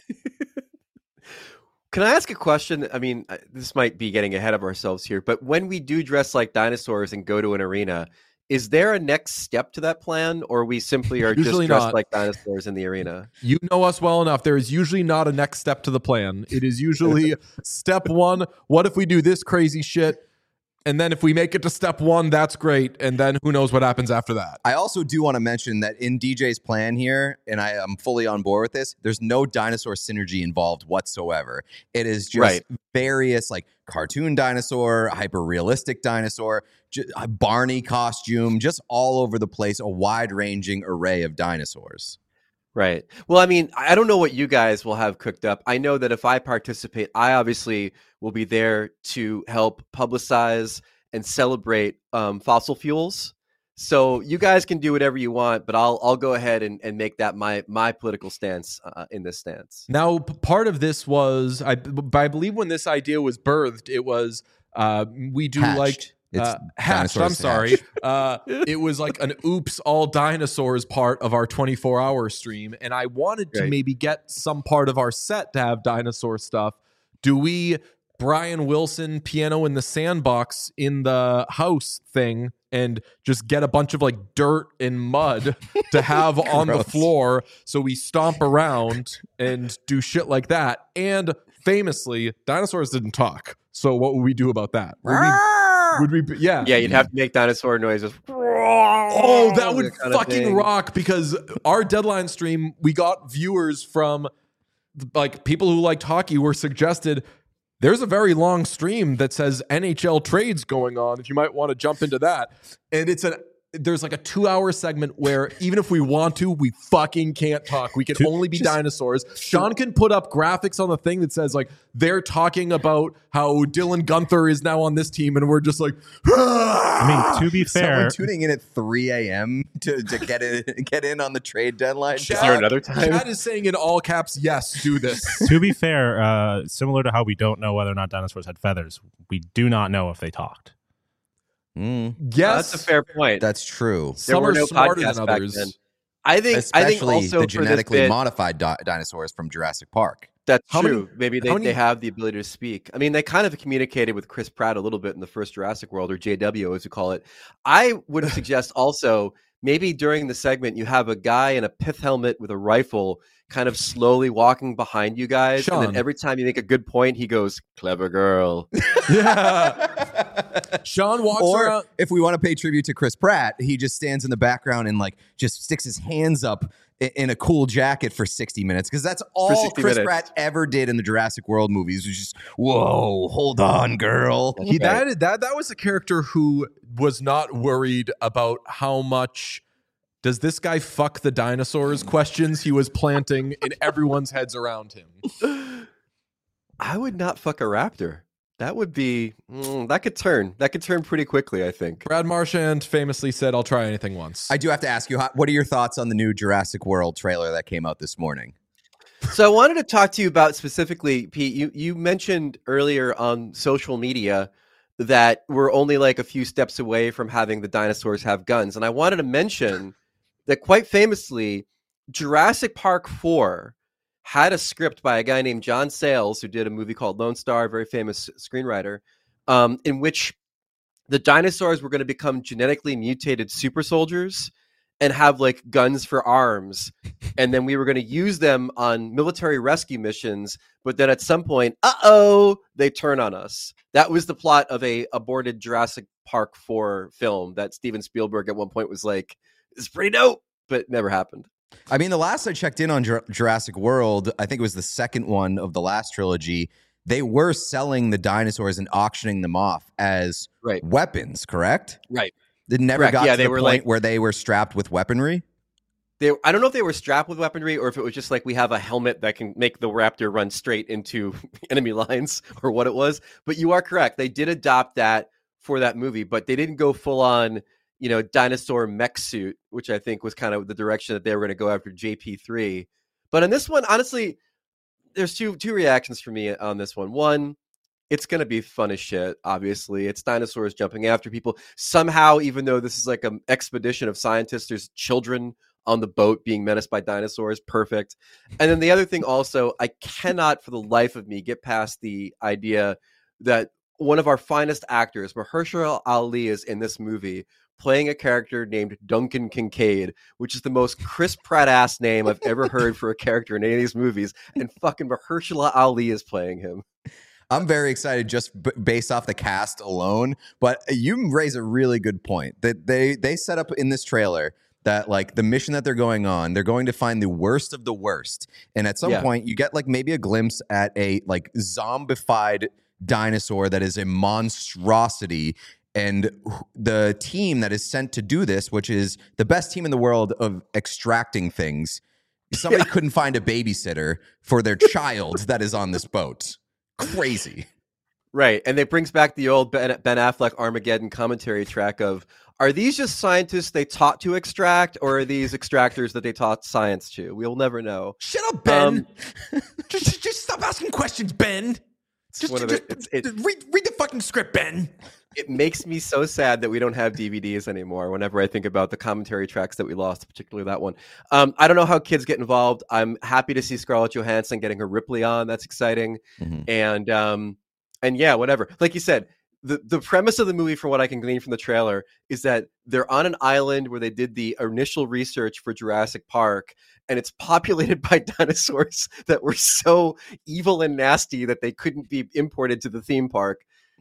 Can I ask a question? I mean, this might be getting ahead of ourselves here, but when we do dress like dinosaurs and go to an arena, is there a next step to that plan, or we simply are usually just dressed not like dinosaurs in the arena? You know us well enough. There is usually not a next step to the plan. It is usually step 1. What if we do this crazy shit? And then if we make it to step 1, that's great. And then who knows what happens after that. I also do want to mention that in DJ's plan here, and I am fully on board with this, there's no dinosaur synergy involved whatsoever. It is just various like cartoon dinosaur, hyper-realistic dinosaur, a Barney costume, just all over the place, a wide-ranging array of dinosaurs. Right. Well, I mean, I don't know what you guys will have cooked up. I know that if I participate, I obviously will be there to help publicize and celebrate fossil fuels. So you guys can do whatever you want, but I'll go ahead and make that my political stance in this stance. Now, part of this was, I believe when this idea was birthed, it was we do Hatched. like... hatched. I'm sorry. It was like an oops, all dinosaurs part of our 24-hour stream. And I wanted to maybe get some part of our set to have dinosaur stuff. Do we Brian Wilson piano in the sandbox in the house thing and just get a bunch of like dirt and mud to have on the floor so we stomp around and do shit like that? And famously, dinosaurs didn't talk. So what would we do about that? Would we, yeah, you'd have to make dinosaur noises. Oh, that would kind of fucking thing. rock, because our deadline stream, we got viewers from like people who liked hockey were suggested. There's a very long stream that says NHL trades going on, if you might want to jump into that. And there's like a 2-hour segment where even if we want to, we fucking can't talk. We can only be dinosaurs. Sean can put up graphics on the thing that says like they're talking about how Dylan Gunther is now on this team, and we're just like, I mean, to be fair, Someone tuning in at 3 a.m. to get in on the trade deadline. Is there another time? Chad is saying in all caps, yes, do this. to be fair, similar to how we don't know whether or not dinosaurs had feathers, we do not know if they talked. Yes, That's a fair point. That's true. Some were are no smarter podcasts than back others. then. I think Especially also the for this genetically bit, modified dinosaurs from Jurassic Park. That's How true. many- Maybe how many- they have the ability to speak. I mean, they kind of communicated with Chris Pratt a little bit in the first Jurassic World, or JW as we call it. I would suggest also maybe during the segment you have a guy in a pith helmet with a rifle kind of slowly walking behind you guys. And Sean. then every time you make a good point, he goes, "Clever girl." Yeah. Sean walks Or around. if we want to pay tribute to Chris Pratt, he just stands in the background and like just sticks his hands up in a cool jacket for 60 minutes, because that's all 60 Chris minutes. Pratt ever did in the Jurassic World movies. Was just, whoa, hold on, girl. That was a character who was not worried about how much does this guy fuck the dinosaurs questions he was planting in everyone's heads around him. I would not fuck a raptor. That would be that could turn pretty quickly, I think. Brad Marchand famously said, "I'll try anything once." I do have to ask you, what are your thoughts on the new Jurassic World trailer that came out this morning? So I wanted to talk to you about specifically, Pete, you mentioned earlier on social media that we're only like a few steps away from having the dinosaurs have guns. And I wanted to mention that quite famously, Jurassic Park 4 had a script by a guy named John Sayles, who did a movie called Lone Star, a very famous screenwriter, in which the dinosaurs were going to become genetically mutated super soldiers and have like guns for arms. And then we were going to use them on military rescue missions. But then at some point, they turn on us. That was the plot of a aborted Jurassic Park 4 film that Steven Spielberg at one point was like, it's pretty dope, but it never happened. I mean, the last I checked in on Jurassic World, I think it was the second one of the last trilogy, they were selling the dinosaurs and auctioning them off as weapons, correct? Right. They never Correct. got Yeah, to they the were point like- where they were strapped with weaponry. I don't know if they were strapped with weaponry or if it was just like we have a helmet that can make the raptor run straight into enemy lines or what it was. But you are correct. They did adopt that for that movie, but they didn't go full on, dinosaur mech suit, which I think was kind of the direction that they were going to go after JP3. But in this one, honestly, there's two reactions for me on this one. One, it's going to be fun as shit, obviously. It's dinosaurs jumping after people. Somehow, even though this is like an expedition of scientists, there's children on the boat being menaced by dinosaurs. Perfect. And then the other thing also, I cannot for the life of me get past the idea that one of our finest actors, Mahershala Ali, is in this movie playing a character named Duncan Kincaid, which is the most Chris Pratt-ass name I've ever heard for a character in any of these movies. And fucking Mahershala Ali is playing him. I'm very excited just based off the cast alone. But you raise a really good point that they set up in this trailer that like the mission that they're going on, they're going to find the worst of the worst. And at some point you get like maybe a glimpse at a like zombified dinosaur that is a monstrosity. And the team that is sent to do this, which is the best team in the world of extracting things, somebody couldn't find a babysitter for their child that is on this boat. Crazy. Right. And it brings back the old Ben Affleck Armageddon commentary track of, are these just scientists they taught to extract, or are these extractors that they taught science to? We'll never know. Shut up, Ben. Just stop asking questions, Ben. Read the fucking script, Ben. It makes me so sad that we don't have DVDs anymore whenever I think about the commentary tracks that we lost, particularly that one. I don't know how kids get involved. I'm happy to see Scarlett Johansson getting her Ripley on. That's exciting. Mm-hmm. And yeah, whatever. Like you said, the premise of the movie, from what I can glean from the trailer, is that they're on an island where they did the initial research for Jurassic Park, and it's populated by dinosaurs that were so evil and nasty that they couldn't be imported to the theme park.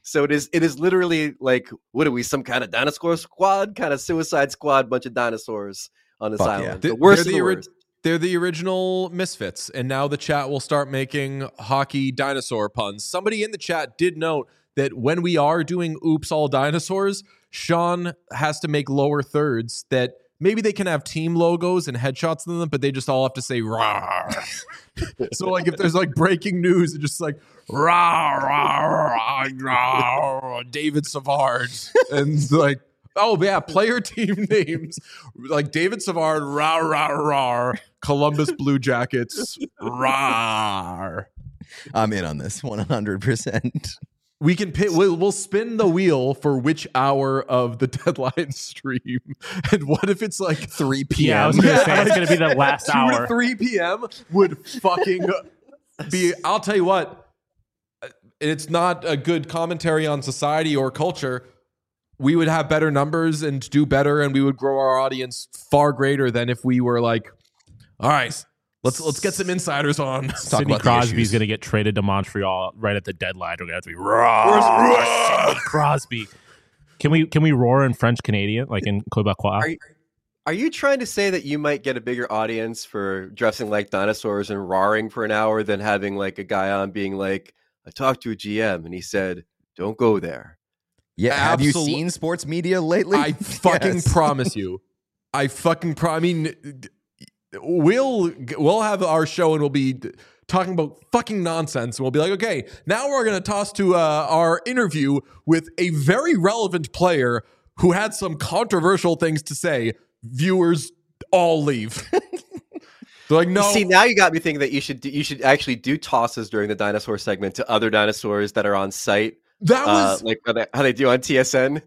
So it is literally like, what are we, some kind of dinosaur squad, kind of Suicide Squad, bunch of dinosaurs on this island. Yeah. The worst of the worst. They're the original Misfits, and now the chat will start making hockey dinosaur puns. Somebody in the chat did note that when we are doing Oops All Dinosaurs, Sean has to make lower thirds that maybe they can have team logos and headshots in them, but they just all have to say "rawr." So like if there's like breaking news, it's just like "rawr, rawr, rawr, David Savard," and like, oh yeah, player team names like David Savard, "rawr, rawr, rawr," Columbus Blue Jackets, "rawr." I'm in on this 100%. We can pick. We'll spin the wheel for which hour of the deadline stream. And what if it's like 3 p.m.? Yeah, I was going to say it's going to be the last 2 hour. to 3 p.m. would fucking be. I'll tell you what. It's not a good commentary on society or culture. We would have better numbers and do better, and we would grow our audience far greater than if we were like, all right, let's get some insiders on. Sidney Crosby's going to get traded to Montreal right at the deadline. We're going to have to be roar, Sidney Crosby. Can we roar in French Canadian like in Quebecois? Are you trying to say that you might get a bigger audience for dressing like dinosaurs and roaring for an hour than having like a guy on being like, I talked to a GM and he said, don't go there. Yeah, have you seen sports media lately? I fucking promise you. I mean, we'll have our show and we'll be talking about fucking nonsense, and we'll be like, okay, now we're going to toss to our interview with a very relevant player who had some controversial things to say. Viewers all leave. They're like, no. See, now you got me thinking that you should actually do tosses during the dinosaur segment to other dinosaurs that are on site. That was like how they do on TSN.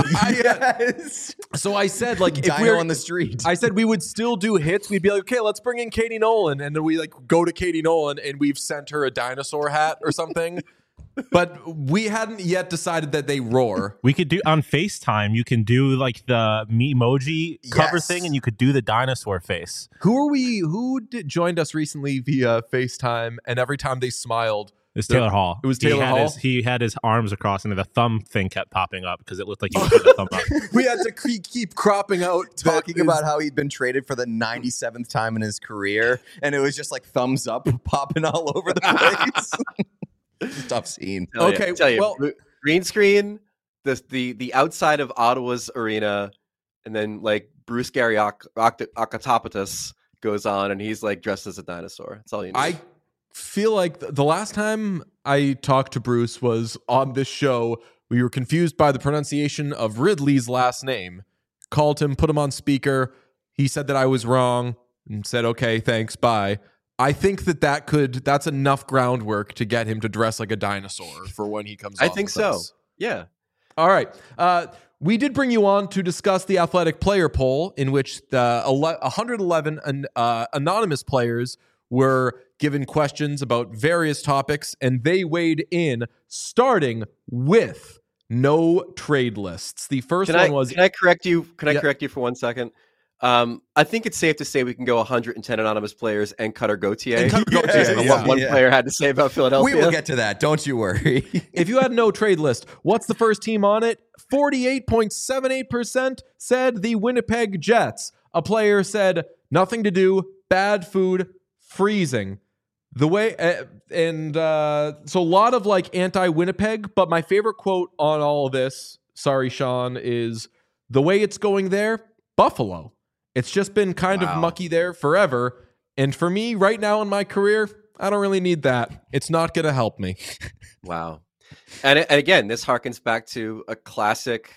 Yes. So I said, like, if Dino we're on the street, I said we would still do hits. We'd be like, okay, let's bring in Katie Nolan, and then we like go to Katie Nolan, and we've sent her a dinosaur hat or something. But we hadn't yet decided that they roar. We could do on FaceTime. You can do like the emoji cover thing, and you could do the dinosaur face. Who joined us recently via FaceTime, and every time they smiled, it was Taylor Hall. It was Taylor Hall. He had his arms across, and the thumb thing kept popping up because it looked like he was putting the thumb up. We had to keep cropping out talking about how he'd been traded for the 97th time in his career, and it was just like thumbs up popping all over the place. Tough scene. Tell you, green screen, the outside of Ottawa's arena, and then like Bruce Gary Akatopatos goes on, and he's like dressed as a dinosaur. That's all you need. I feel like the last time I talked to Bruce was on this show. We were confused by the pronunciation of Ridley's last name. Called him, put him on speaker. He said that I was wrong and said, okay, thanks, bye. I think that's enough groundwork to get him to dress like a dinosaur for when he comes on. I think so. Us. Yeah. All right. We did bring you on to discuss the athletic player poll in which the 111 anonymous players were given questions about various topics, and they weighed in, starting with no trade lists. The first one was... Can I correct you? Correct you for 1 second? I think it's safe to say we can go 110 anonymous players and Cutter Gauthier. What one player had to say about Philadelphia. We will get to that. Don't you worry. If you had no trade list, what's the first team on it? 48.78% said the Winnipeg Jets. A player said nothing to do, bad food, freezing. The way so a lot of like anti-Winnipeg, but my favorite quote on all of this, sorry Sean, is the way it's going there, Buffalo. It's just been kind of mucky there forever. And for me, right now in my career, I don't really need that. It's not going to help me. Wow. And again, this harkens back to a classic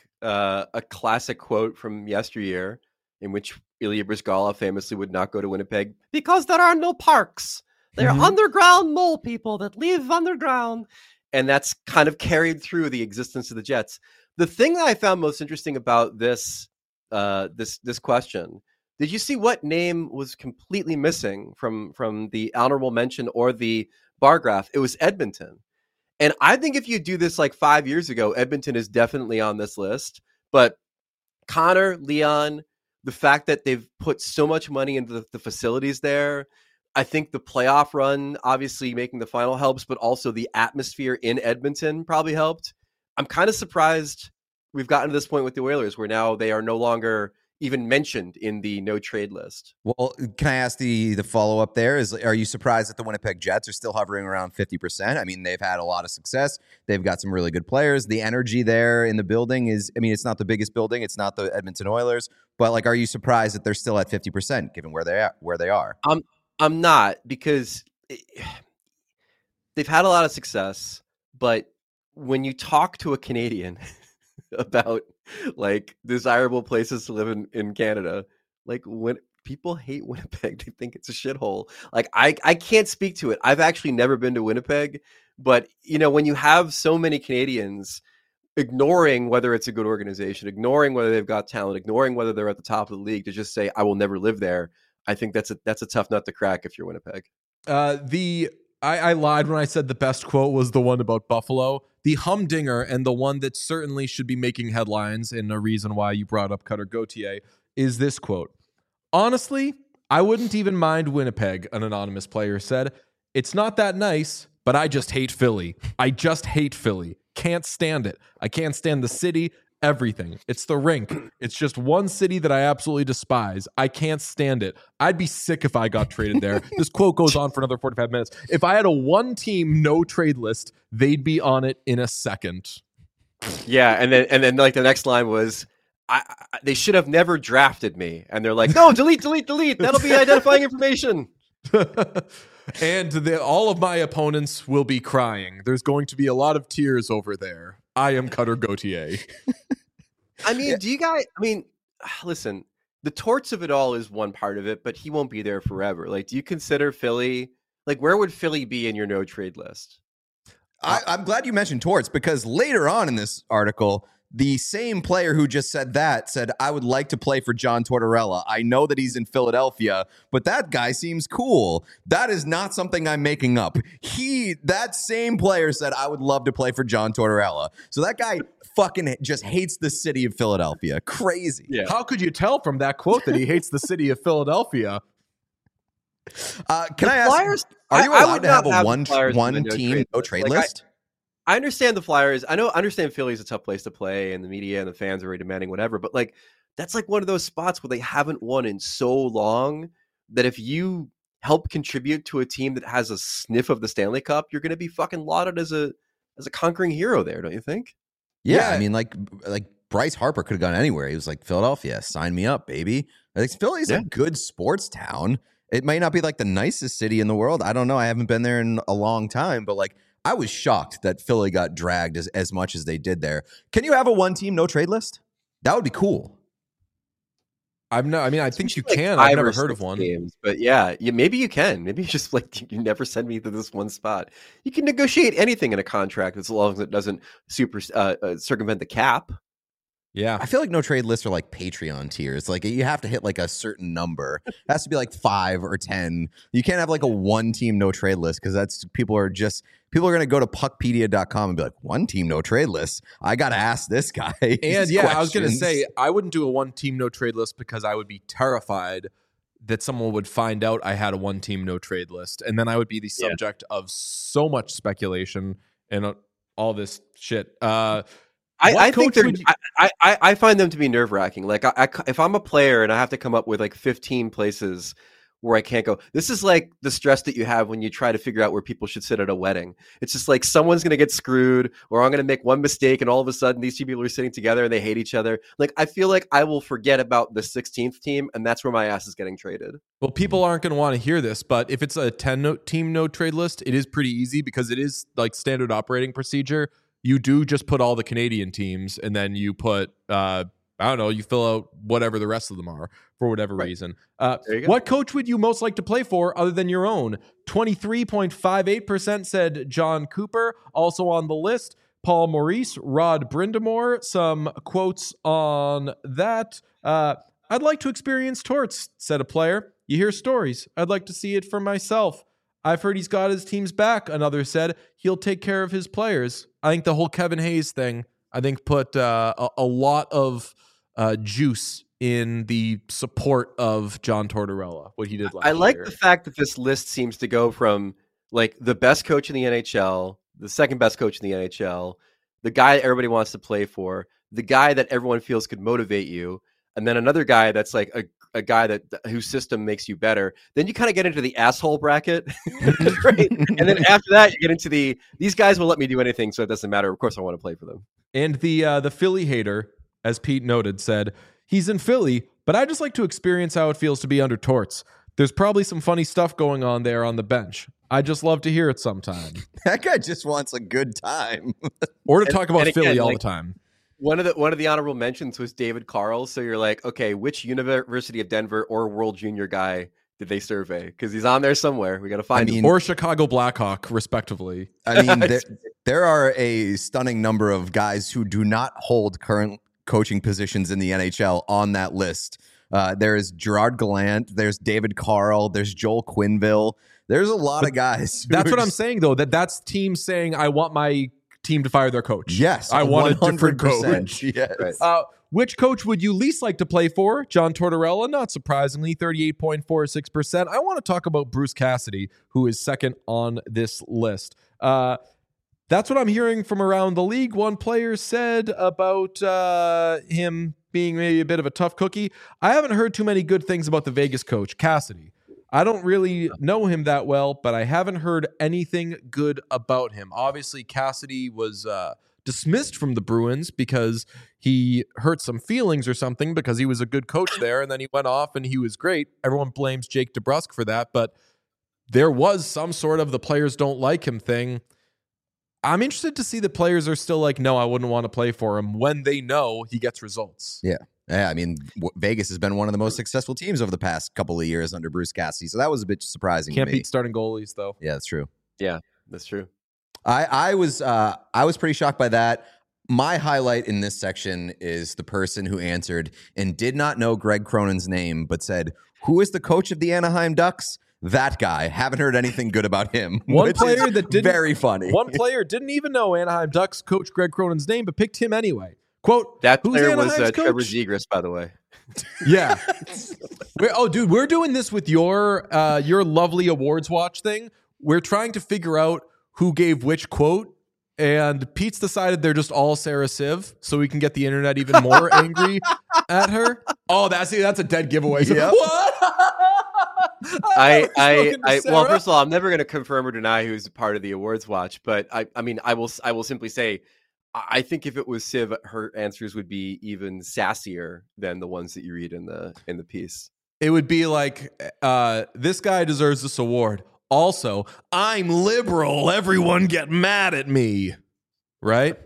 quote from yesteryear in which Ilya Bryzgalov famously would not go to Winnipeg because there are no parks. They're underground mole people that live underground. And that's kind of carried through the existence of the Jets. The thing that I found most interesting about this question, did you see what name was completely missing from the honorable mention or the bar graph? It was Edmonton. And I think if you do this like 5 years ago, Edmonton is definitely on this list. But Connor, Leon, the fact that they've put so much money into the facilities there, I think the playoff run, obviously making the final helps, but also the atmosphere in Edmonton probably helped. I'm kind of surprised we've gotten to this point with the Oilers where now they are no longer even mentioned in the no trade list. Well, can I ask the follow-up there? Are you surprised that the Winnipeg Jets are still hovering around 50%? I mean, they've had a lot of success. They've got some really good players. The energy there in the building is, I mean, it's not the biggest building. It's not the Edmonton Oilers. But, like, are you surprised that they're still at 50% given where they are? I'm not, because they've had a lot of success. But when you talk to a Canadian about like desirable places to live in Canada, like when people hate Winnipeg, they think it's a shithole. Like I can't speak to it. I've actually never been to Winnipeg, but you know, when you have so many Canadians ignoring whether it's a good organization, ignoring whether they've got talent, ignoring whether they're at the top of the league to just say I will never live there, I think that's a tough nut to crack if you're Winnipeg. I lied when I said the best quote was the one about Buffalo. The humdinger, and the one that certainly should be making headlines, and a reason why you brought up Cutter Gauthier, is this quote. Honestly, I wouldn't even mind Winnipeg, an anonymous player said. It's not that nice, but I just hate Philly. I just hate Philly. Can't stand it. I can't stand the city, everything. It's the rink. It's just one city that I absolutely despise. I can't stand it. I'd be sick if I got traded there. This quote goes on for another 45 minutes. If I had a one-team no-trade list, they'd be on it in a second. Yeah, and then like the next line was, they should have never drafted me. And they're like, no, delete. That'll be identifying information. And all of my opponents will be crying. There's going to be a lot of tears over there. I am Cutter Gauthier. I mean, listen, the torts of it all is one part of it, but he won't be there forever. Like, do you consider Philly, like, where would Philly be in your no trade list? I'm glad you mentioned torts, because later on in this article, the same player who just said that said, I would like to play for John Tortorella. I know that he's in Philadelphia, but that guy seems cool. That is not something I'm making up. That same player said, I would love to play for John Tortorella. So that guy fucking just hates the city of Philadelphia. Crazy. Yeah. How could you tell from that quote that he hates the city of Philadelphia? Can I ask, Flyers, are you allowed to have a one team no trade list? I understand the Flyers. I understand Philly's a tough place to play, and the media and the fans are very demanding, whatever. But like, that's like one of those spots where they haven't won in so long that if you help contribute to a team that has a sniff of the Stanley Cup, you're going to be fucking lauded as a conquering hero there, don't you think? Yeah, I mean, like Bryce Harper could have gone anywhere. He was like, Philadelphia, sign me up, baby. Like, Philly's a good sports town. It might not be like the nicest city in the world. I don't know. I haven't been there in a long time, but like, I was shocked that Philly got dragged as much as they did there. Can you have a one-team no-trade list? That would be cool. I think you can. I've never heard of one. Games, but yeah, maybe you can. Maybe just like you never send me to this one spot. You can negotiate anything in a contract as long as it doesn't circumvent the cap. Yeah. I feel like no trade lists are like Patreon tiers. Like you have to hit like a certain number. It has to be like 5 or 10. You can't have like a one team no trade list because people are going to go to puckpedia.com and be like, one team no trade list. I got to ask this guy. And I was going to say, I wouldn't do a one team no trade list because I would be terrified that someone would find out I had a one team no trade list. And then I would be the subject of so much speculation and all this shit. I think I find them to be nerve wracking. Like if I'm a player and I have to come up with like 15 places where I can't go, this is like the stress that you have when you try to figure out where people should sit at a wedding. It's just like someone's going to get screwed, or I'm going to make one mistake, and all of a sudden these two people are sitting together and they hate each other. Like I feel like I will forget about the 16th team, and that's where my ass is getting traded. Well, people aren't going to want to hear this, but if it's a 10-team no trade list, it is pretty easy because it is like standard operating procedure. You do just put all the Canadian teams, and then you put, you fill out whatever the rest of them are for whatever reason. What coach would you most like to play for other than your own? 23.58% said John Cooper. Also on the list, Paul Maurice, Rod Brindamore. Some quotes on that. I'd like to experience torts, said a player. You hear stories. I'd like to see it for myself. I've heard he's got his team's back, another said. He'll take care of his players. I think the whole Kevin Hayes thing, put a lot of juice in the support of John Tortorella, what he did last year. I like the fact that this list seems to go from like the best coach in the NHL, the second best coach in the NHL, the guy that everybody wants to play for, the guy that everyone feels could motivate you, and then another guy that's like a guy that whose system makes you better. Then you kind of get into the asshole bracket, right? And then after that, you get into these guys will let me do anything, so it doesn't matter. Of course, I want to play for them. And the Philly hater, as Pete noted, said he's in Philly, but I just like to experience how it feels to be under Torts. There's probably some funny stuff going on there on the bench. I just love to hear it sometime. That guy just wants a good time. Or to talk about again, Philly all the time. One of the honorable mentions was David Carl. So you're like, okay, which University of Denver or World Junior guy did they survey? Because he's on there somewhere. We got to find him. Or Chicago Blackhawk, respectively. I mean, there are a stunning number of guys who do not hold current coaching positions in the NHL on that list. There is Gerard Gallant. There's David Carl. There's Joel Quenneville. There's a lot of guys. That's what I'm saying, though, that's teams saying, I want my team to fire their coach. Yes. I want a different coach. Yes. Right. Which coach would you least like to play for? John Tortorella, not surprisingly, 38.46%. I want to talk about Bruce Cassidy, who is second on this list. That's what I'm hearing from around the league. One player said about him being maybe a bit of a tough cookie. I haven't heard too many good things about the Vegas coach, Cassidy. I don't really know him that well, but I haven't heard anything good about him. Obviously, Cassidy was dismissed from the Bruins because he hurt some feelings or something because he was a good coach there, and then he went off and he was great. Everyone blames Jake DeBrusk for that, but there was some sort of the players don't like him thing. I'm interested to see the players are still like, no, I wouldn't want to play for him when they know he gets results. Yeah. Yeah, I mean, Vegas has been one of the most successful teams over the past couple of years under Bruce Cassidy, so that was a bit surprising. Can't to me. beat starting goalies, though. Yeah, that's true. Yeah, that's true. I was pretty shocked by that. My highlight in this section is the person who answered and did not know Greg Cronin's name, but said, "Who is the coach of the Anaheim Ducks?" That guy. Haven't heard anything good about him. One player that didn't very funny. One player didn't even know Anaheim Ducks coach Greg Cronin's name, but picked him anyway. Quote, that player was Anaheim's Trevor coach? Zegras, by the way. Yeah. Dude, we're doing this with your lovely awards watch thing. We're trying to figure out who gave which quote, and Pete's decided they're just all Sarah Civ, so we can get the internet even more angry at her. Oh, that's a dead giveaway. Yep. What? Well, first of all, I'm never going to confirm or deny who's part of the awards watch, but I mean, I will simply say, I think if it was Civ, her answers would be even sassier than the ones that you read in the piece. It would be like, this guy deserves this award. Also, I'm liberal. Everyone get mad at me. Right?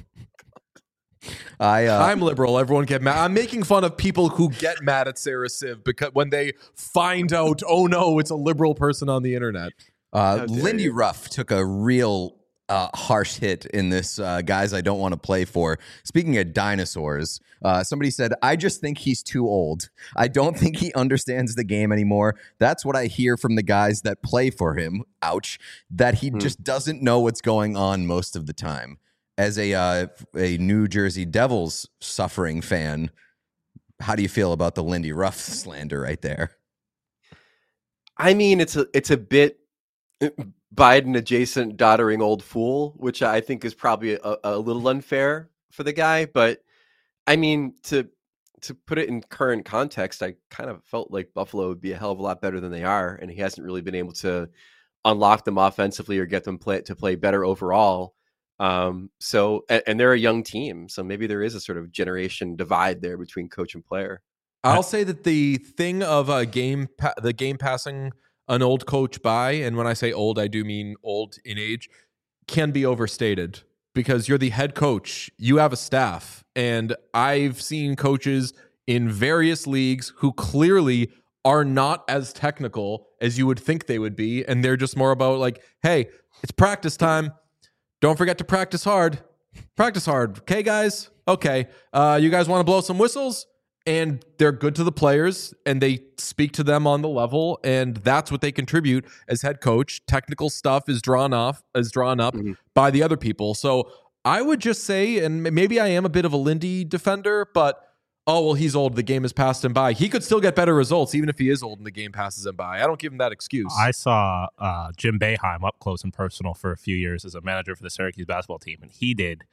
I'm liberal. Everyone get mad. I'm making fun of people who get mad at Sarah Civ because when they find out, oh no, it's a liberal person on the internet. Lindy Ruff took a real harsh hit in this guys I don't want to play for. Speaking of dinosaurs, somebody said, I just think he's too old. I don't think he understands the game anymore. That's what I hear from the guys that play for him. Ouch. That he just doesn't know what's going on most of the time. As a New Jersey Devils suffering fan, how do you feel about the Lindy Ruff slander right there? I mean, it's a bit Biden adjacent doddering old fool, which I think is probably a little unfair for the guy. But I mean, to put it in current context, I kind of felt like Buffalo would be a hell of a lot better than they are. And he hasn't really been able to unlock them offensively or get them to play better overall. So they're a young team. So maybe there is a sort of generation divide there between coach and player. I'll say that the thing of the game passing an old coach by, and when I say old, I do mean old in age, can be overstated because you're the head coach. You have a staff. And I've seen coaches in various leagues who clearly are not as technical as you would think they would be. And they're just more about like, hey, it's practice time. Don't forget to practice hard. Practice hard. Okay, guys? Okay. You guys want to blow some whistles? And they're good to the players, and they speak to them on the level, and that's what they contribute as head coach. Technical stuff is drawn up by the other people. So I would just say, and maybe I am a bit of a Lindy defender, but he's old. The game has passed him by. He could still get better results even if he is old and the game passes him by. I don't give him that excuse. I saw Jim Boeheim up close and personal for a few years as a manager for the Syracuse basketball team, and he did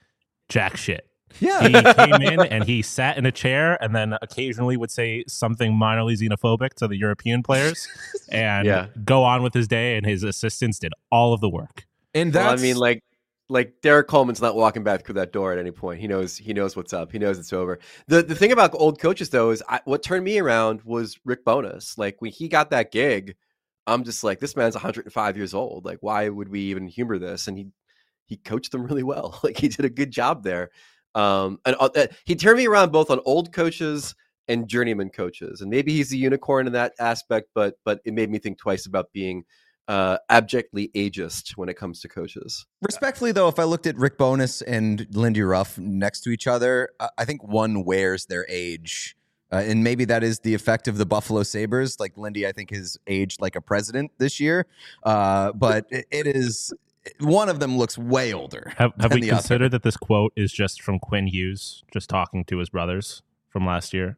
jack shit. Yeah. He came in and he sat in a chair and then occasionally would say something minorly xenophobic to the European players and go on with his day, and his assistants did all of the work. And that's, well, I mean, like Derek Coleman's not walking back through that door at any point. He knows what's up. He knows it's over. The thing about old coaches though is what turned me around was Rick Bowness. Like when he got that gig, I'm just like, this man's 105 years old. Like why would we even humor this? And he coached them really well. Like he did a good job there. And he turned me around both on old coaches and journeyman coaches, and maybe he's a unicorn in that aspect, but it made me think twice about being abjectly ageist when it comes to coaches. Respectfully, though, if I looked at Rick Bowness and Lindy Ruff next to each other, I think one wears their age. And maybe that is the effect of the Buffalo Sabres. Like Lindy, I think, has aged like a president this year. But it is... One of them looks way older. Have we considered that this quote is just from Quinn Hughes, just talking to his brothers from last year?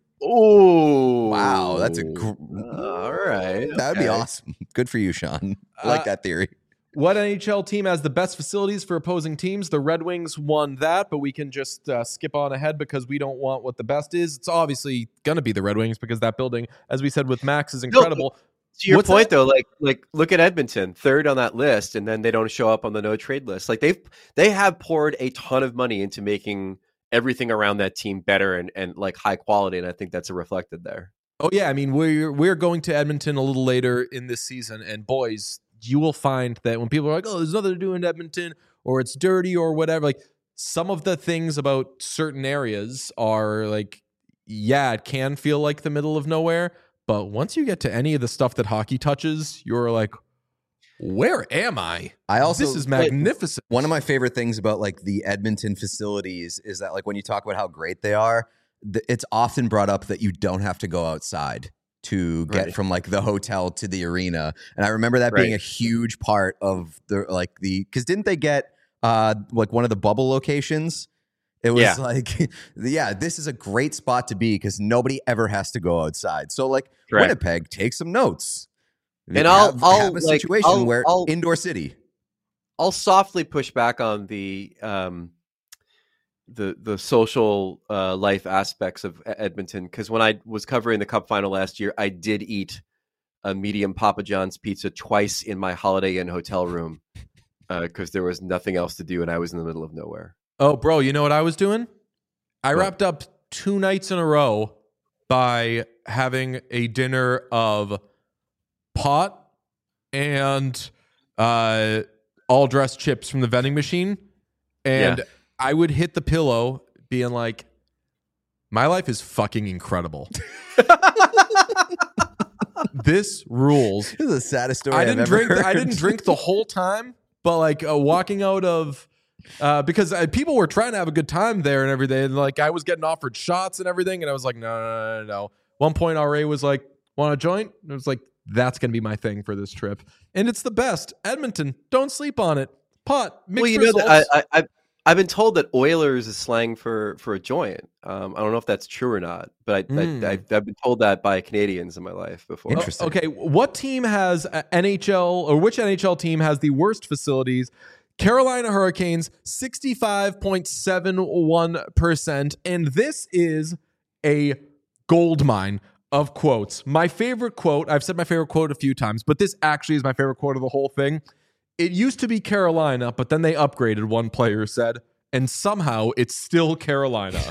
Oh, wow. That's all right. That would be awesome. Good for you, Sean. I like that theory. What NHL team has the best facilities for opposing teams? The Red Wings won that, but we can just skip on ahead because we don't want what the best is. It's obviously going to be the Red Wings because that building, as we said with Max, is incredible. To your point, though, like look at Edmonton, third on that list, and then they don't show up on the no trade list. Like they have poured a ton of money into making everything around that team better and like high quality, and I think that's reflected there. Oh yeah, I mean we're going to Edmonton a little later in this season, and boys, you will find that when people are like, "Oh, there's nothing to do in Edmonton," or "It's dirty," or whatever, like some of the things about certain areas are like, yeah, it can feel like the middle of nowhere. But once you get to any of the stuff that hockey touches, you're like, where am I? This is magnificent. One of my favorite things about like the Edmonton facilities is that like when you talk about how great they are, it's often brought up that you don't have to go outside to get from like the hotel to the arena. And I remember that being a huge part of because didn't they get like one of the bubble locations? It was like, this is a great spot to be because nobody ever has to go outside. So, like, Winnipeg, take some notes. And I'll have a situation where indoor city. I'll softly push back on the social life aspects of Edmonton because when I was covering the Cup final last year, I did eat a medium Papa John's pizza twice in my Holiday Inn hotel room because there was nothing else to do and I was in the middle of nowhere. Oh, bro, you know what I was doing? I wrapped up 2 nights in a row by having a dinner of pot and all dressed chips from the vending machine. And I would hit the pillow being like, my life is fucking incredible. This rules. This is the saddest story I didn't heard. drink the whole time, but like walking out of... because people were trying to have a good time there and everything. And like I was getting offered shots and everything. And I was like, no. One point, RA was like, want a joint? And I was like, that's going to be my thing for this trip. And it's the best. Edmonton, don't sleep on it. Pot, mixed results. I've been told that Oilers is slang for a joint. I don't know if that's true or not, but I've been told that by Canadians in my life before. Interesting. Okay, what team has NHL or which NHL team has the worst facilities? Carolina Hurricanes, 65.71%. And this is a gold mine of quotes. My favorite quote, I've said my favorite quote a few times, but this actually is my favorite quote of the whole thing. It used to be Carolina, but then they upgraded, one player said, and somehow it's still Carolina.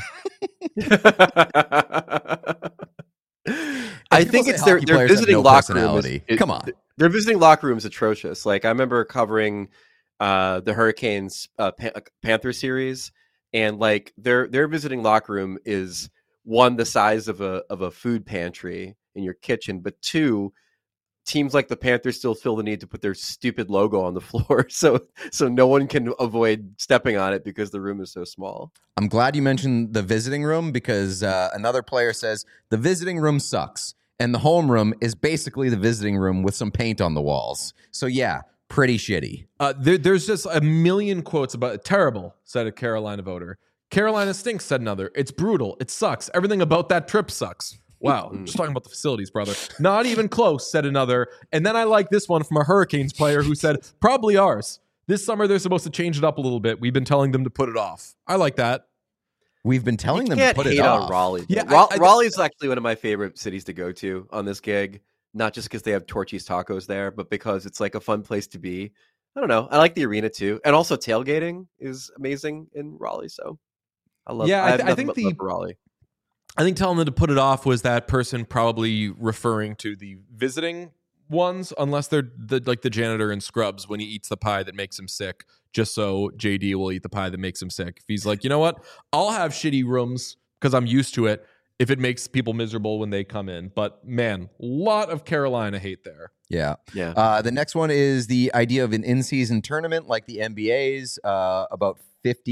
I think it's their visiting locker room. Come on. Their visiting locker room is atrocious. Like I remember covering the Hurricanes Panther series, and like their visiting locker room is one, the size of a food pantry in your kitchen, but two, teams like the Panthers still feel the need to put their stupid logo on the floor so no one can avoid stepping on it because the room is so small. I'm glad you mentioned the visiting room because another player says the visiting room sucks and the home room is basically the visiting room with some paint on the walls. So yeah, pretty shitty. There's just a million quotes about it. Terrible, said a Carolina voter. Carolina stinks, said another. It's brutal. It sucks. Everything about that trip sucks. Wow, just talking about the facilities, brother. Not even close, said another. And then I like this one from a Hurricanes player who said, probably ours. This summer, they're supposed to change it up a little bit. We've been telling them to put it off. I like that. We've been telling them to can't put it hate off. on Raleigh. Yeah, Raleigh's actually one of my favorite cities to go to on this gig. Not just because they have Torchy's tacos there, but because it's like a fun place to be. I don't know. I like the arena too, and also tailgating is amazing in Raleigh. So I love. Yeah, I think love for Raleigh. I think telling them to put it off was that person probably referring to the visiting ones, unless they're like the janitor in Scrubs when he eats the pie that makes him sick, just so JD will eat the pie that makes him sick. If he's like, you know what, I'll have shitty rooms because I'm used to it if it makes people miserable when they come in. But man, lot of Carolina hate there. Yeah. Yeah. The next one is the idea of an in-season tournament like the NBA's. About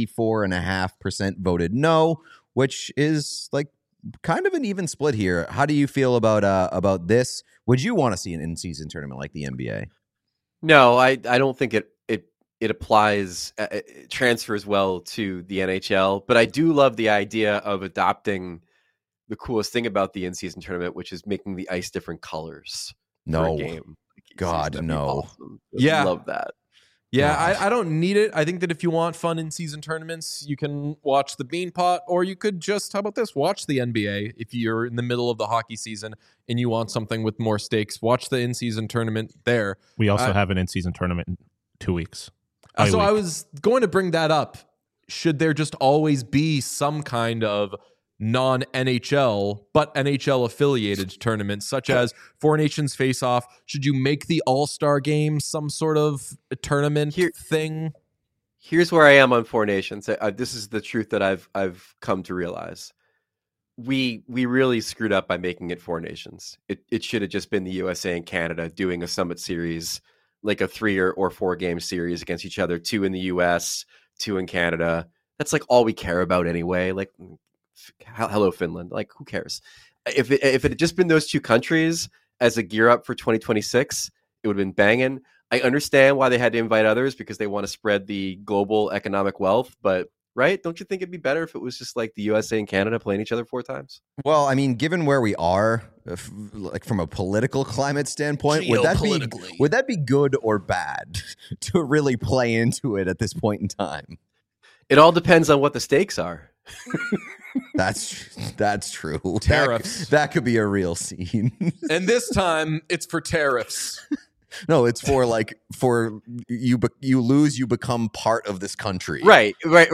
54.5% voted no, which is like kind of an even split here. How do you feel about this? Would you want to see an in-season tournament like the NBA? No, I don't think it applies, it transfers well to the NHL. But I do love the idea of adopting the coolest thing about the in-season tournament, which is making the ice different colors. No, for a game. God, no. Awesome. Yeah. Love that. Yeah, I don't need it. I think that if you want fun in-season tournaments, you can watch the Beanpot, or you could just, how about this, watch the NBA. If you're in the middle of the hockey season and you want something with more stakes, watch the in-season tournament there. We also have an in-season tournament in 2 weeks. So I was going to bring that up. Should there just always be some kind of non-NHL but NHL affiliated tournaments, such as Four Nations Face Off? Should you make the All-Star Game some sort of tournament thing? Here's where I am on Four Nations. This is the truth that I've come to realize. We really screwed up by making it Four Nations. It should have just been the USA and Canada doing a Summit Series, like a 3 or 4 game series against each other, 2 in the US, 2 in Canada. That's like all we care about anyway. Like, hello Finland. Like, who cares? If it had just been those 2 countries as a gear up for 2026, it would have been banging. I understand why they had to invite others because they want to spread the global economic wealth, but right? Don't you think it'd be better if it was just like the USA and Canada playing each other 4 times? Well, I mean, given where we are, like from a political climate standpoint, would that be good or bad to really play into it at this point in time? It all depends on what the stakes are. That's true. Tariffs. That could be a real scene. And this time, it's for tariffs. No, it's for you lose, you become part of this country. Right.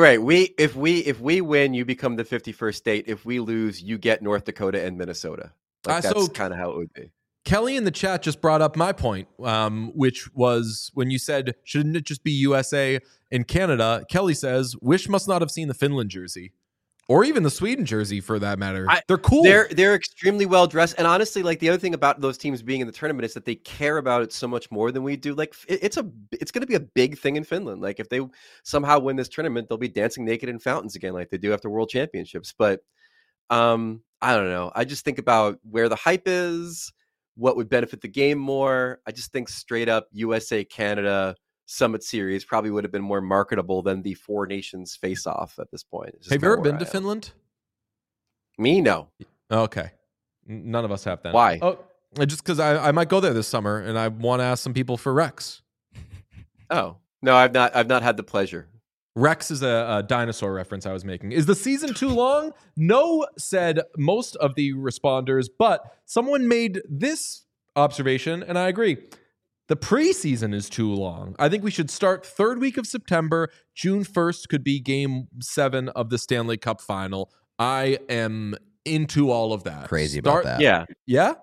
If we win, you become the 51st state. If we lose, you get North Dakota and Minnesota. That's kind of how it would be. Kelly in the chat just brought up my point, which was when you said, shouldn't it just be USA and Canada? Kelly says, Wish must not have seen the Finland jersey. Or even the Sweden jersey, for that matter. They're cool. They're extremely well dressed, and honestly, like the other thing about those teams being in the tournament is that they care about it so much more than we do. Like it's going to be a big thing in Finland. Like if they somehow win this tournament, they'll be dancing naked in fountains again, like they do after World Championships. But I don't know. I just think about where the hype is, what would benefit the game more. I just think straight up USA Canada Summit Series probably would have been more marketable than the Four Nations face-off at this point. Have you ever been to Finland? Me, no. Okay. None of us have then. Why? Oh, just because I might go there this summer, and I want to ask some people for Rex. Oh, no, I've not had the pleasure. Rex is a dinosaur reference I was making. Is the season too long? No, said most of the responders, but someone made this observation, and I agree. The preseason is too long. I think we should start 3rd week of September. June 1st could be game 7 of the Stanley Cup final. I am into all of that. Crazy about that. Yeah. Yeah?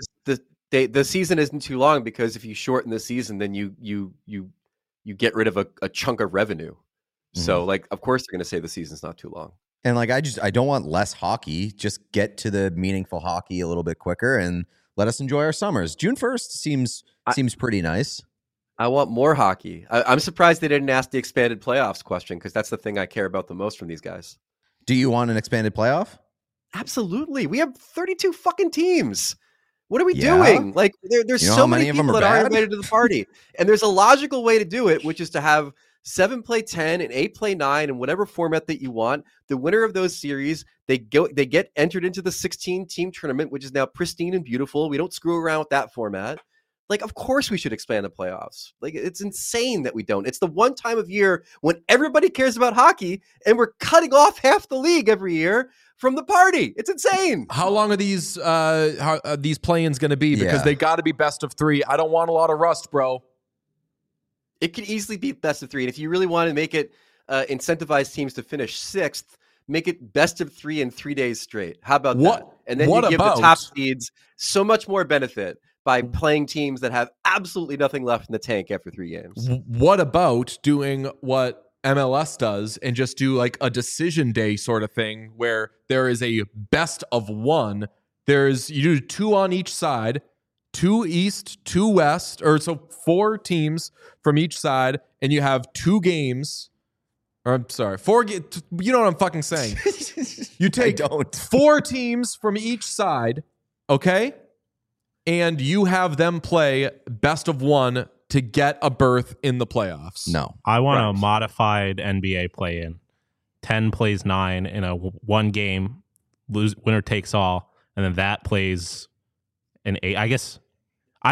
The season isn't too long because if you shorten the season, then you get rid of a chunk of revenue. Mm-hmm. So, like, of course they're going to say the season's not too long. And like, I don't want less hockey. Just get to the meaningful hockey a little bit quicker and let us enjoy our summers. June 1st seems pretty nice. I want more hockey. I'm surprised they didn't ask the expanded playoffs question because that's the thing I care about the most from these guys. Do you want an expanded playoff? Absolutely. We have 32 fucking teams. What are we doing? Like, there's so many people that aren't invited to the party. And there's a logical way to do it, which is to have 7 play 10 and 8 play 9 in whatever format that you want. The winner of those series, they get entered into the 16-team tournament, which is now pristine and beautiful. We don't screw around with that format. Like, of course we should expand the playoffs. Like, it's insane that we don't. It's the one time of year when everybody cares about hockey, and we're cutting off half the league every year from the party. It's insane. How long are these play-ins going to be? Because they got to be best of 3. I don't want a lot of rust, bro. It could easily be best of 3. And if you really want to make it incentivize teams to finish 6th, make it best of 3 in 3 days straight. How about that? And then you give the top seeds so much more benefit by playing teams that have absolutely nothing left in the tank after 3 games. What about doing what MLS does and just do like a decision day sort of thing where there is a best of 1? You do 2 on each side, 2 East, 2 West, or so 4 teams from each side, and you have 2 games. Or I'm sorry, 4. You know what I'm fucking saying? You take 4 teams from each side, okay? And you have them play best of 1 to get a berth in the playoffs. No. I want a modified NBA play-in. 10 plays 9 in a 1 game, winner takes all, and then that plays an 8. I guess I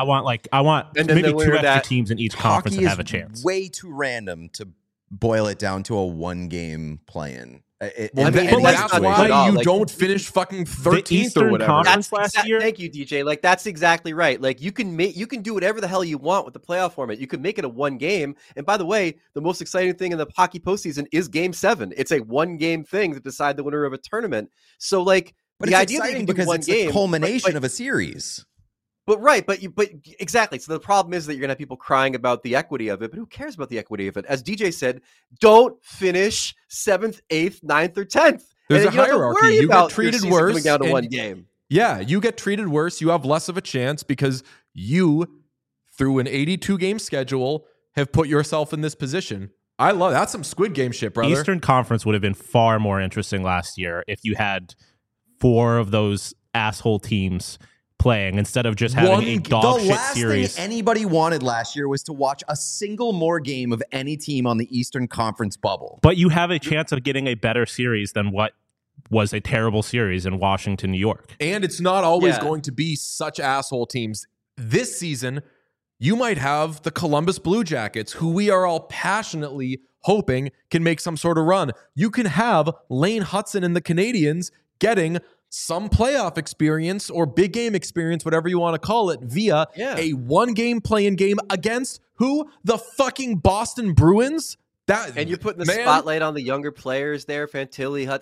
want maybe 2 extra teams in each conference that have a chance. Way too random to boil it down to a 1-game play-in. That's why you don't finish fucking 13th or whatever. Last year. Thank you, DJ. Like, that's exactly right. Like, you can do whatever the hell you want with the playoff format. You can make it a 1 game. And by the way, the most exciting thing in the hockey postseason is Game 7. It's a 1-game thing to decide the winner of a tournament. So, like, but the it's idea that you can do because 1 it's game, the culmination of a series. But exactly. So the problem is that you're gonna have people crying about the equity of it, but who cares about the equity of it? As DJ said, don't finish 7th, 8th, 9th, or 10th. There's a hierarchy. You get treated worse. Coming down to 1 game. Yeah, you get treated worse. You have less of a chance because you, through an 82-game schedule, have put yourself in this position. I love that's some Squid Game shit, brother. Eastern Conference would have been far more interesting last year if you had 4 of those asshole teams playing instead of just having a dog shit series. The last thing anybody wanted last year was to watch a single more game of any team on the Eastern Conference bubble. But you have a chance of getting a better series than what was a terrible series in Washington, New York. And it's not always going to be such asshole teams. This season, you might have the Columbus Blue Jackets, who we are all passionately hoping can make some sort of run. You can have Lane Hudson and the Canadiens getting some playoff experience or big game experience, whatever you want to call it, via a 1-game play-in game against who? The fucking Boston Bruins? And you're putting the spotlight on the younger players there, Fantilli, Hutz.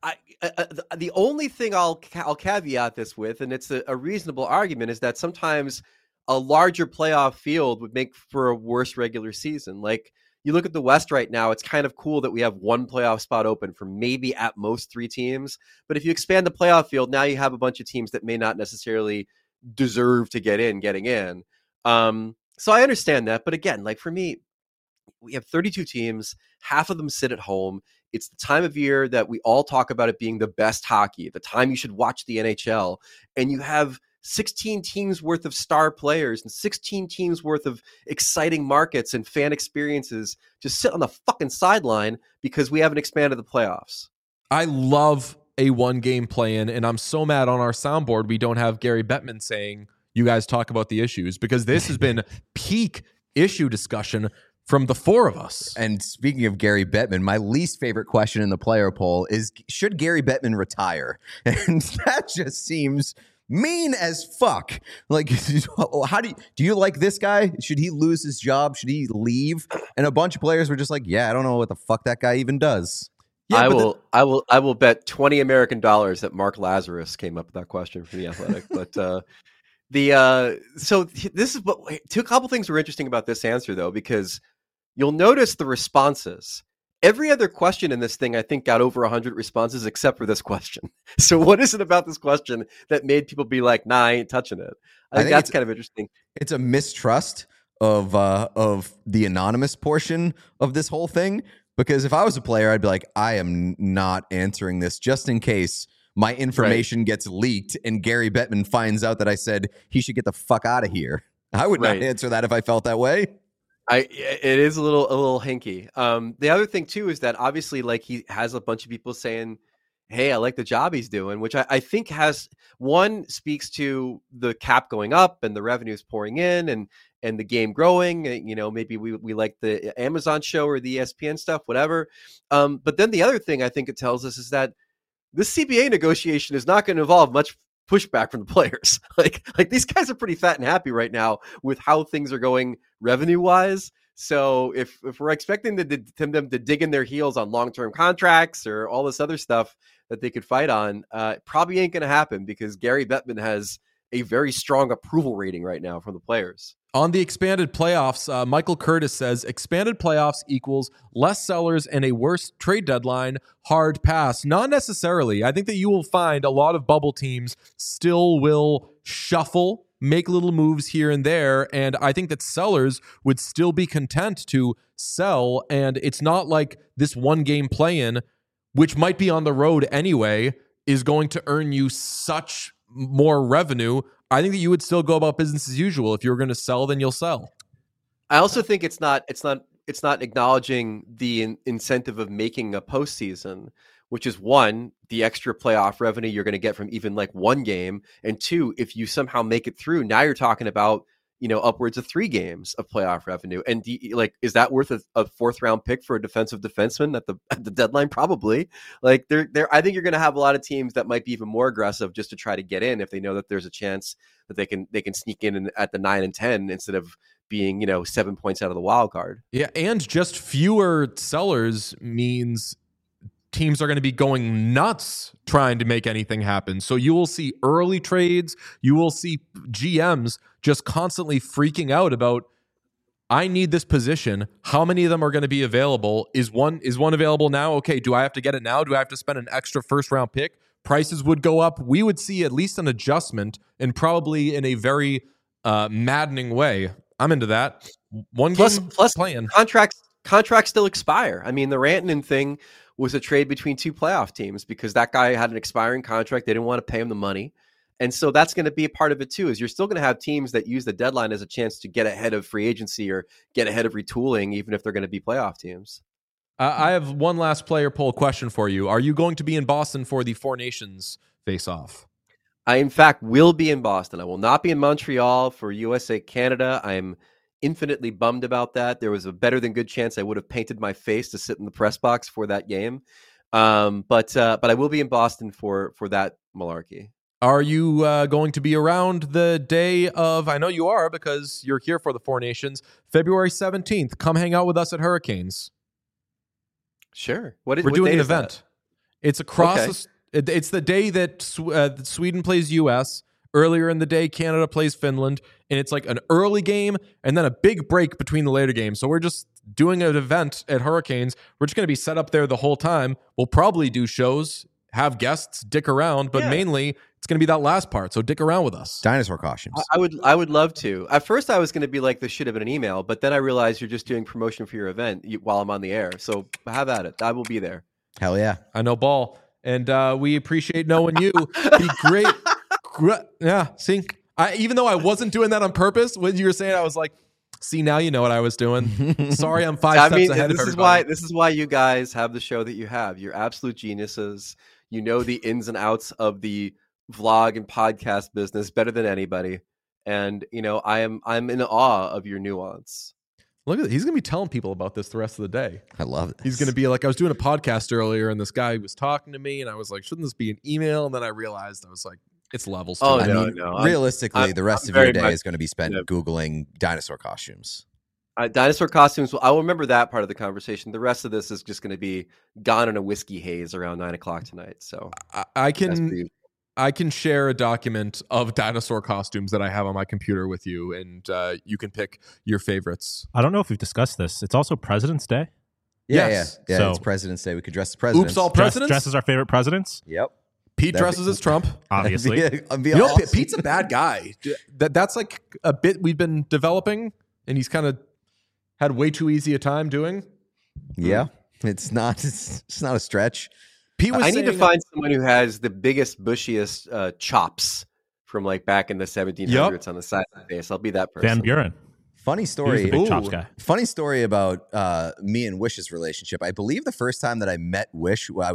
The only thing I'll caveat this with, and it's a reasonable argument, is that sometimes a larger playoff field would make for a worse regular season. Like, you look at the West right now, it's kind of cool that we have 1 playoff spot open for maybe at most 3 teams. But if you expand the playoff field, now you have a bunch of teams that may not necessarily deserve to getting in. So I understand that. But again, like for me, we have 32 teams. Half of them sit at home. It's the time of year that we all talk about it being the best hockey, the time you should watch the NHL. And you have 16 teams worth of star players and 16 teams worth of exciting markets and fan experiences just sit on the fucking sideline because we haven't expanded the playoffs. I love a 1-game play-in, and I'm so mad on our soundboard we don't have Gary Bettman saying, you guys talk about the issues, because this has been peak issue discussion from the 4 of us. And speaking of Gary Bettman, my least favorite question in the player poll is, should Gary Bettman retire? And that just seems mean as fuck. Like, how do you like this guy? Should he lose his job? Should he leave? And a bunch of players were just like, yeah, I don't know what the fuck that guy even does. Yeah, I will bet $20 American that Mark Lazarus came up with that question for The Athletic. But so this is a couple things were interesting about this answer though, because you'll notice the responses. Every other question in this thing, I think, got over 100 responses except for this question. So what is it about this question that made people be like, nah, I ain't touching it? I think that's kind of interesting. It's a mistrust of the anonymous portion of this whole thing. Because if I was a player, I'd be like, I am not answering this just in case my information gets leaked and Gary Bettman finds out that I said he should get the fuck out of here. I would not answer that if I felt that way. It is a little hinky. The other thing too is that obviously, like, he has a bunch of people saying hey, I like the job he's doing, which I think speaks to the cap going up and the revenues pouring in and the game growing. Maybe we like the Amazon show or the ESPN stuff, whatever. But then the other thing I think it tells us is that this CBA negotiation is not going to involve much pushback from the players. Like these guys are pretty fat and happy right now with how things are going revenue wise. So if we're expecting them to dig in their heels on long-term contracts or all this other stuff that they could fight on, probably ain't going to happen because Gary Bettman has a very strong approval rating right now from the players. On the expanded playoffs, Michael Curtis says expanded playoffs equals less sellers and a worse trade deadline. Hard pass. Not necessarily. I think that you will find a lot of bubble teams still will shuffle, make little moves here and there. And I think that sellers would still be content to sell. And it's not like this one game play-in, which might be on the road anyway, is going to earn you such more revenue. I think that you would still go about business as usual. If you're going to sell, then you'll sell. I also think it's not acknowledging the incentive of making a postseason, which is one, the extra playoff revenue you're going to get from even like one game, and two, if you somehow make it through, now you're talking about upwards of 3 games of playoff revenue. And is that worth a 4th round pick for a defensive defenseman at the deadline? Probably. I think you're going to have a lot of teams that might be even more aggressive just to try to get in if they know that there's a chance that they can sneak in at the 9 and 10 instead of being 7 points out of the wild card. Yeah, and just fewer sellers means teams are going to be going nuts trying to make anything happen. So you will see early trades. You will see GMs just constantly freaking out about, I need this position. How many of them are going to be available? Is one available now? Okay, do I have to get it now? Do I have to spend an extra 1st round pick? Prices would go up. We would see at least an adjustment, and probably in a very maddening way. I'm into that. Plus playing. Contracts still expire. I mean, the Rantanen thing was a trade between 2 playoff teams because that guy had an expiring contract. They didn't want to pay him the money. And so that's going to be a part of it too, is you're still going to have teams that use the deadline as a chance to get ahead of free agency or get ahead of retooling, even if they're going to be playoff teams. I have one last player poll question for you. Are you going to be in Boston for the Four Nations face-off? I, in fact, will be in Boston. I will not be in Montreal for USA Canada. I'm infinitely bummed about that. There was a better than good chance I would have painted my face to sit in the press box for that game. But I will be in Boston for that malarkey. Are you going to be around the day of, I know you are because you're here for the Four Nations, February 17th. Come hang out with us at Hurricanes. Sure. We're doing an event. It's across. Okay. It's the day that Sweden plays US. Earlier in the day, Canada plays Finland, and it's like an early game and then a big break between the later games. So we're just doing an event at Hurricanes. We're just going to be set up there the whole time. We'll probably do shows, have guests, dick around, but mainly it's going to be that last part. So dick around with us. Dinosaur costumes. I would love to. At first, I was going to be like, this should have been an email, but then I realized you're just doing promotion for your event while I'm on the air. So have at it. I will be there. Hell yeah. I know ball. And we appreciate knowing you. Be great. Yeah, see, even though I wasn't doing that on purpose, when you were saying, I was like, see, now you know what I was doing. Sorry, I'm 5 steps ahead of everybody. This is why you guys have the show that you have. You're absolute geniuses. You know the ins and outs of the vlog and podcast business better than anybody. And I'm in awe of your nuance. Look at it. He's going to be telling people about this the rest of the day. I love it. He's going to be like, I was doing a podcast earlier, and this guy was talking to me, and I was like, shouldn't this be an email? And then I realized, I was like, it's levels. Oh, no. Realistically, the rest of your day is going to be spent Googling dinosaur costumes. Dinosaur costumes. I will remember that part of the conversation. The rest of this is just going to be gone in a whiskey haze around 9:00 tonight. So I can share a document of dinosaur costumes that I have on my computer with you, and you can pick your favorites. I don't know if we've discussed this. It's also President's Day. Yes. Yeah. So, it's President's Day. We could dress the presidents. Oops, all presidents. Dress as our favorite presidents. Yep. Pete dresses as Trump, obviously. Awesome. Pete's a bad guy. That's like a bit we've been developing, and he's kind of had way too easy a time doing. Yeah, it's not a stretch. I need to find someone who has the biggest, bushiest chops from like back in the 1700s on the side of the face. I'll be that person. Van Buren. Funny story. He was the big chops guy. Funny story about me and Wish's relationship. I believe the first time that I met Wish, I was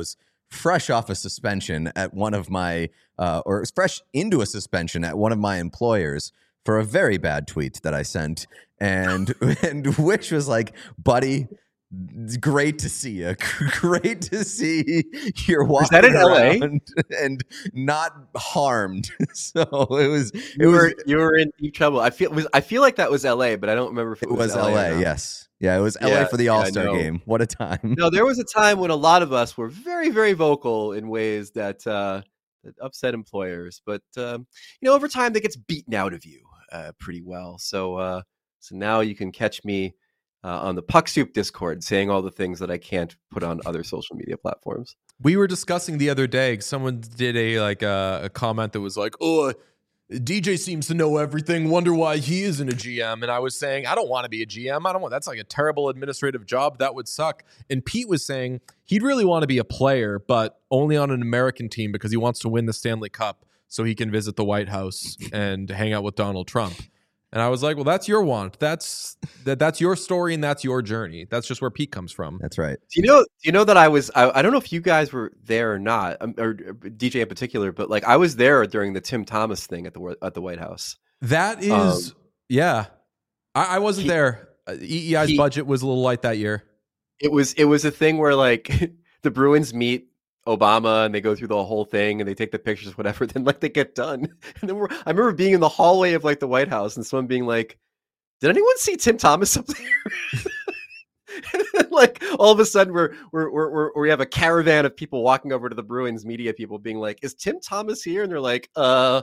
fresh off a suspension at one of my, or fresh into a suspension at one of my employers for a very bad tweet that I sent. And Wish was like, buddy, it's great to see you. Great to see you're walking around and not harmed. So you were in deep trouble. I feel like that was LA, but I don't remember if it was LA. Yes. Yeah, it was LA for the All-Star game. What a time. No, there was a time when a lot of us were very, very vocal in ways that upset employers. But, over time, that gets beaten out of you pretty well. So now you can catch me on the Puck Soup Discord saying all the things that I can't put on other social media platforms. We were discussing the other day, someone did a comment that was like, oh, DJ seems to know everything. Wonder why he isn't a GM. And I was saying, I don't want to be a GM. That's like a terrible administrative job. That would suck. And Pete was saying he'd really want to be a player, but only on an American team because he wants to win the Stanley Cup so he can visit the White House and hang out with Donald Trump. And I was like, well, that's your want. That's your story and that's your journey. That's just where Pete comes from. That's right. Do you know that I don't know if you guys were there or not, or DJ in particular, but like I was there during the Tim Thomas thing at the White House. That is, yeah. I wasn't there. EEI's budget was a little light that year. It was a thing where like the Bruins meet Obama and they go through the whole thing and they take the pictures, whatever. Then like they get done, and then I remember being in the hallway of like the White House and someone being like, "Did anyone see Tim Thomas up there?" And then, like all of a sudden we have a caravan of people walking over to the Bruins media people, being like, "Is Tim Thomas here?" And they're like, no.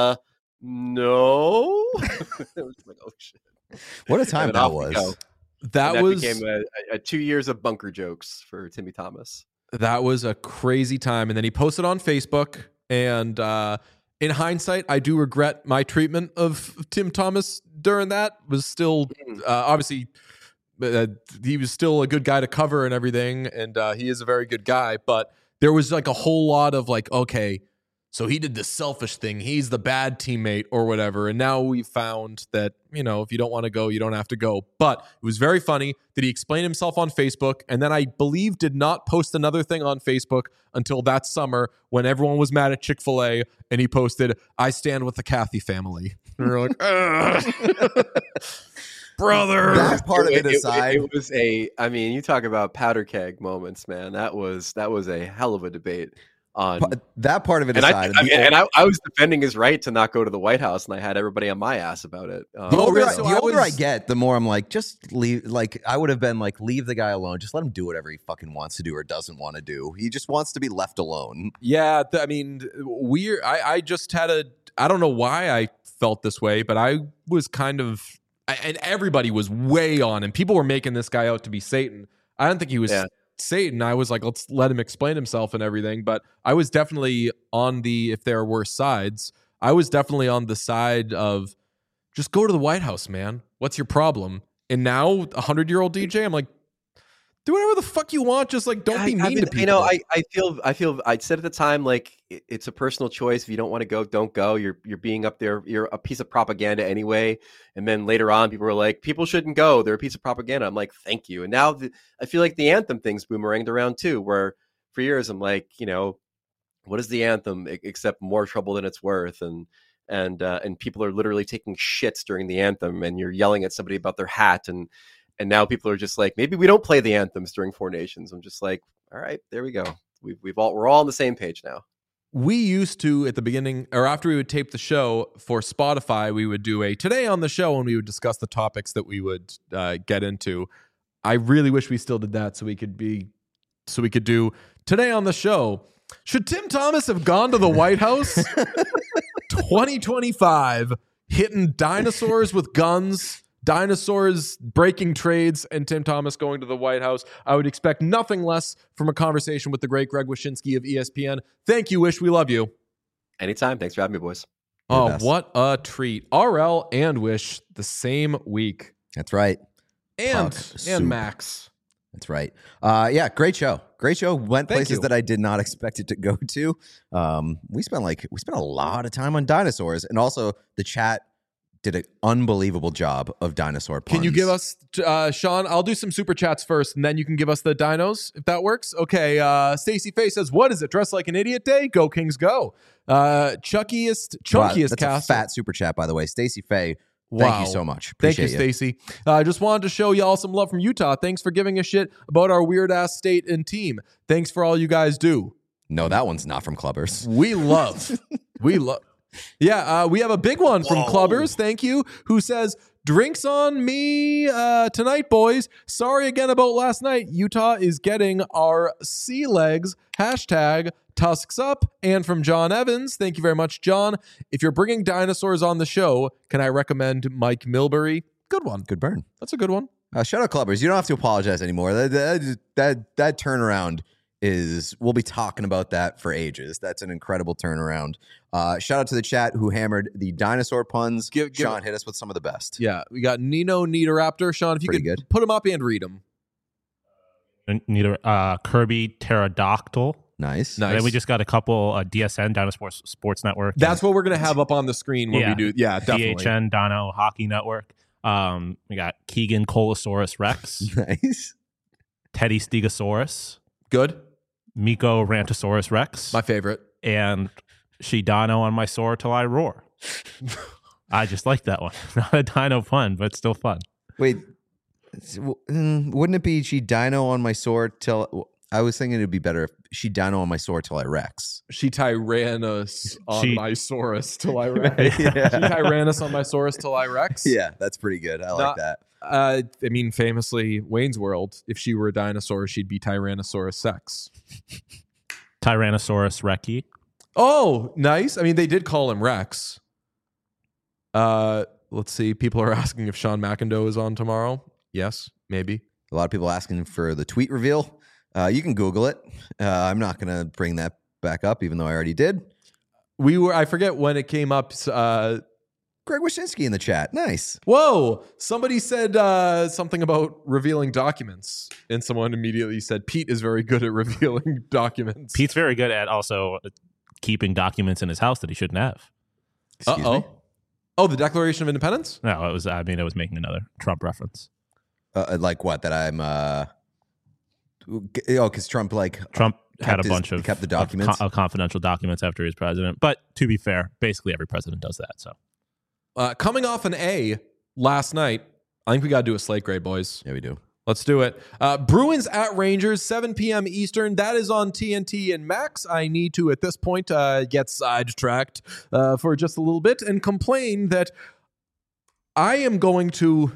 It was like, oh shit! What a time that was. That became a 2 years of bunker jokes for Timmy Thomas. That was a crazy time. And then he posted on Facebook. And in hindsight, I do regret my treatment of Tim Thomas during that. Was still, obviously, he was still a good guy to cover and everything. And he is a very good guy. But there was like a whole lot of like, okay, so he did this selfish thing. He's the bad teammate or whatever. And now we found that, if you don't want to go, you don't have to go. But it was very funny that he explained himself on Facebook. And then I believe did not post another thing on Facebook until that summer when everyone was mad at Chick-fil-A. And he posted, I stand with the Kathy family. And we're like, brother. That part of it aside. It was you talk about powder keg moments, man. That was a hell of a debate. That part of it aside. I was defending his right to not go to the White House, and I had everybody on my ass about it. The older I get, the more I'm like, just leave. Like, I would have been like, leave the guy alone. Just let him do whatever he fucking wants to do or doesn't want to do. He just wants to be left alone. Yeah, weird. I just had I don't know why I felt this way, but I was kind of, and everybody was way on, and people were making this guy out to be Satan. I don't think he was Satan. I was like, let's let him explain himself and everything. But I was definitely on if there were sides, I was definitely on the side of just go to the White House, man. What's your problem? And now 100-year-old DJ, I'm like, do whatever the fuck you want. Just like, don't be mean to people. I feel I said at the time, like, it's a personal choice. If you don't want to go, don't go. You're being up there. You're a piece of propaganda anyway. And then later on, people were like, people shouldn't go. They're a piece of propaganda. I'm like, thank you. And now I feel like the anthem thing's boomeranged around too, where for years I'm like, what is the anthem except more trouble than it's worth? And people are literally taking shits during the anthem, and you're yelling at somebody about their hat, and now people are just like, maybe we don't play the anthems during Four Nations. I'm just like, all right, there we go. We're all on the same page now. We used to, at the beginning or after we would tape the show for Spotify, we would do a Today on the Show, and we would discuss the topics that we would get into. I really wish we still did that so we could do Today on the Show. Should Tim Thomas have gone to the White House? 2025, hitting dinosaurs with guns, dinosaurs breaking trades, and Tim Thomas going to the White House. I would expect nothing less from a conversation with the great Greg Wyshynski of ESPN. Thank you, Wish. We love you. Anytime. Thanks for having me, boys. Oh, what a treat. RL and Wish the same week. That's right. And Max. That's right. Yeah, great show. Great show. Went places that I did not expect it to go to. We spent a lot of time on dinosaurs, and also the chat did an unbelievable job of dinosaur puns. Can you give us, Sean? I'll do some super chats first, and then you can give us the dinos if that works. Okay. Stacey Faye says, "What is it? Dress like an idiot day? Go Kings, go!" Chunkiest That's Castle. a fat super chat, by the way. Stacey Faye, thank you so much. Thank you, Appreciate Stacey. I just wanted to show y'all some love from Utah. Thanks for giving a shit about our weird ass state and team. Thanks for all you guys do. No, that one's not from Clubbers. We love. Yeah, we have a big one from Clubbers, thank you, who says, "Drinks on me tonight, boys. Sorry again about last night. Utah is getting our sea legs. Hashtag Tusks up." And from John Evans, thank you very much, John. "If you're bringing dinosaurs on the show, can I recommend Mike Milbury?" Good one. Good burn. That's a good one. Shout out Clubbers. You don't have to apologize anymore. That turnaround we'll be talking about that for ages. That's an incredible turnaround. Shout out to the chat who hammered the dinosaur puns. Sean, hit us with some of the best. Yeah, we got Nino Niederaptor. Sean, if you could put him up and read him. Kirby Pterodactyl. Nice. And then we just got a couple DSN, Dinosaur Sports Network. That's what we're going to have up on the screen when we do. Yeah, definitely. DHN, Dino Hockey Network. We got Keegan Colosaurus Rex. Nice. Teddy Stegosaurus. Good. Miko Rantosaurus Rex. My favorite. And Shidano on my sore till I roar. I just like that one. Not a dino pun, but still fun. Wait, wouldn't it be she dino on my sore till... I was thinking it'd be better if she dino on my sore till I Rex. She Tyrannus on my Saurus till I Rex. Yeah. She Tyrannus on my Saurus till I Rex. Yeah, that's pretty good. I like that. I mean, famously, Wayne's World, if she were a dinosaur, she'd be Tyrannosaurus Sex. Tyrannosaurus Rexy. Oh, nice. I mean, they did call him Rex. Let's see. People are asking if Sean McIndoe is on tomorrow. Yes, maybe. A lot of people asking for the tweet reveal. You can Google it. I'm not going to bring that back up, even though I already did. I forget when it came up. Greg Wyszynski in the chat. Nice. Whoa. Somebody said something about revealing documents, and someone immediately said Pete is very good at revealing documents. Pete's very good at also keeping documents in his house that he shouldn't have. Excuse me? Oh, the Declaration of Independence? No, I was making another Trump reference. Like what? That I'm... because Trump had a bunch of kept the documents of confidential documents after he was president. But to be fair, basically every president does that. So coming off an A last night, I think we got to do a slate grade, boys. Yeah, we do. Let's do it. Bruins at Rangers, 7 p.m. Eastern. That is on TNT. And Max, I need to at this point get sidetracked for just a little bit and complain that I am going to.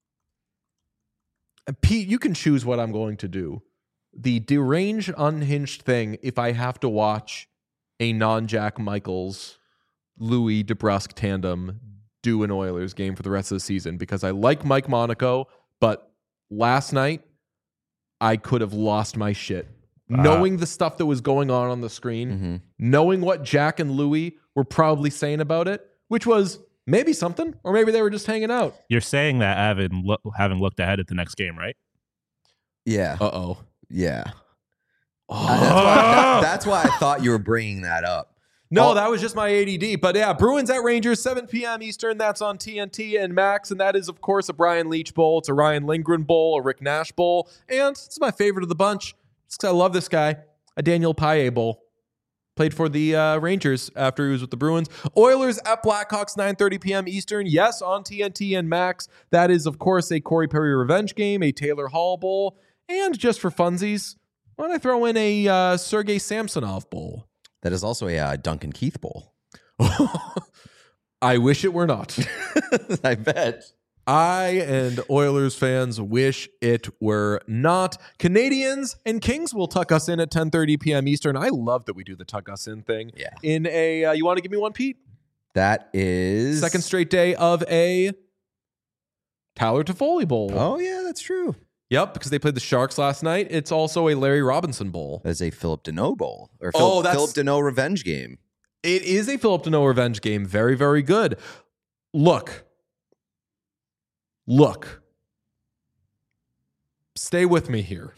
Pete, you can choose what I'm going to do. The deranged, unhinged thing if I have to watch a non-Jack Michaels, Louis DeBrusque tandem do an Oilers game for the rest of the season, because I like Mike Monaco, but last night I could have lost my shit. Knowing the stuff that was going on the screen, knowing what Jack and Louis were probably saying about it, which was maybe something, or maybe they were just hanging out. You're saying that having looked ahead at the next game, right? Yeah. Uh-oh. Yeah. That's why I thought you were bringing that up. No, that was just my ADD. But yeah, Bruins at Rangers, 7 p.m. Eastern. That's on TNT and Max. And that is, of course, a Brian Leach Bowl. It's a Ryan Lindgren Bowl, a Rick Nash Bowl. And it's my favorite of the bunch, just because I love this guy, a Daniel Paille Bowl. Played for the Rangers after he was with the Bruins. Oilers at Blackhawks, 9:30 p.m. Eastern. Yes, on TNT and Max. That is, of course, a Corey Perry revenge game, a Taylor Hall Bowl. And just for funsies, why don't I throw in a Sergei Samsonov Bowl? That is also a Duncan Keith Bowl. I wish it were not. I bet. I and Oilers fans wish it were not. Canadians and Kings will tuck us in at 10:30 p.m. Eastern. I love that we do the tuck us in thing. Yeah. In a, you want to give me one, Pete? That is... Second straight day of a Tyler Toffoli Bowl. Oh, yeah, that's true. Yep, because they played the Sharks last night. It's also a Larry Robinson Bowl. That's a Philip Deneau Bowl. Or Philip Deneau revenge game. It is a Philip Deneau revenge game. Very, very good. Look. Stay with me here.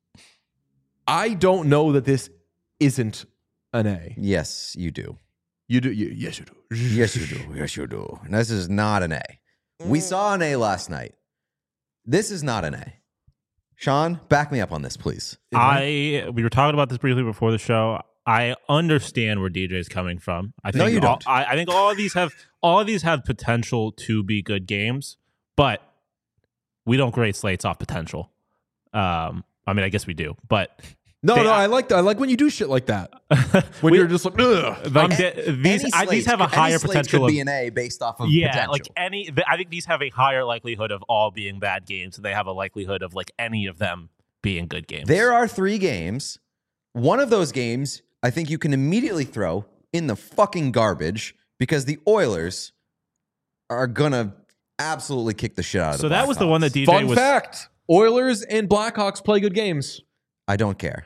I don't know that this isn't an A. Yes, you do. You do. Yes, you do. Yes, you do. Yes, you do. And this is not an A. We saw an A last night. This is not an A. Sean, back me up on this, please. We were talking about this briefly before the show. I understand where DJ is coming from. I think No, you don't. I think all of these have potential to be good games, but we don't grade slates off potential. I mean, I guess we do, but No, I like that. I like when you do shit like that. When you're just like, ugh. like these have a higher potential. Could be an A based off of potential. Like I think these have a higher likelihood of all being bad games. So they have a likelihood of like any of them being good games. There are 3 games. One of those games, I think you can immediately throw in the fucking garbage because the Oilers are gonna absolutely kick the shit out of So the that was the one that DJ Fun was. fact: Oilers and Blackhawks play good games. I don't care.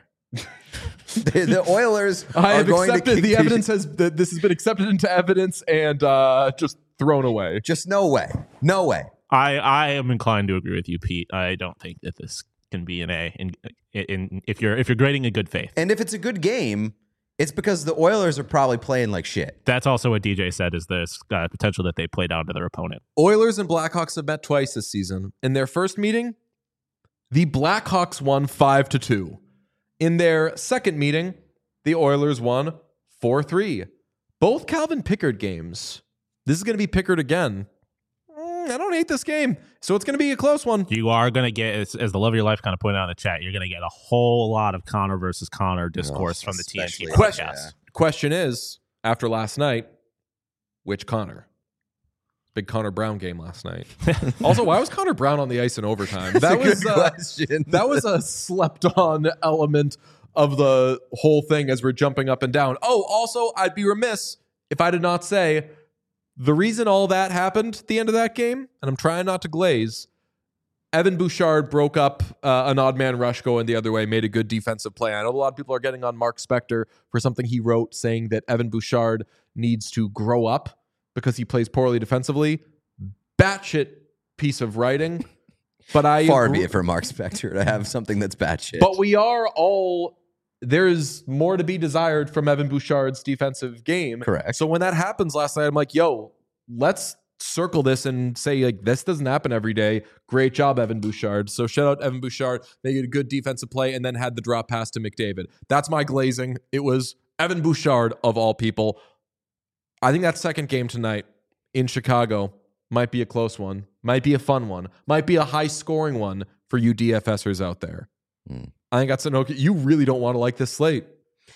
the Oilers I are have going to accepted kick the evidence this has been accepted into evidence and just thrown away. Just no way. No way. I am inclined to agree with you, Pete. I don't think that this can be an A in if you're grading a good faith. And if it's a good game, it's because the Oilers are probably playing like shit. That's also what DJ said is this potential that they play down to their opponent. Oilers and Blackhawks have met twice this season. In their first meeting, the Blackhawks won 5-2. In their second meeting, the Oilers won 4-3. Both Calvin Pickard games. This is going to be Pickard again. I don't hate this game. So it's going to be a close one. You are going to get, as the love of your life kind of pointed out in the chat, you're going to get a whole lot of Connor versus Connor discourse from the TNT podcast. Question is, after last night, which Connor? Big Connor Brown game last night. Also, why was Connor Brown on the ice in overtime? That was a good question. That was a slept-on element of the whole thing as we're jumping up and down. Oh, also, I'd be remiss if I did not say the reason all that happened at the end of that game, and I'm trying not to glaze, Evan Bouchard broke up an odd man rush going the other way, made a good defensive play. I know a lot of people are getting on Mark Spector for something he wrote saying that Evan Bouchard needs to grow up because he plays poorly defensively. Batshit piece of writing. But Far be it for Mark Spector to have something that's batshit. But we are all... There's more to be desired from Evan Bouchard's defensive game. Correct. So when that happens last night, I'm like, yo, let's circle this and say, like, this doesn't happen every day. Great job, Evan Bouchard. So shout out Evan Bouchard. They did a good defensive play and then had the drop pass to McDavid. That's my glazing. It was Evan Bouchard of all people. I think that second game tonight in Chicago might be a close one, might be a fun one, might be a high-scoring one for you DFSers out there. I think that's an okay. You really don't want to like this slate.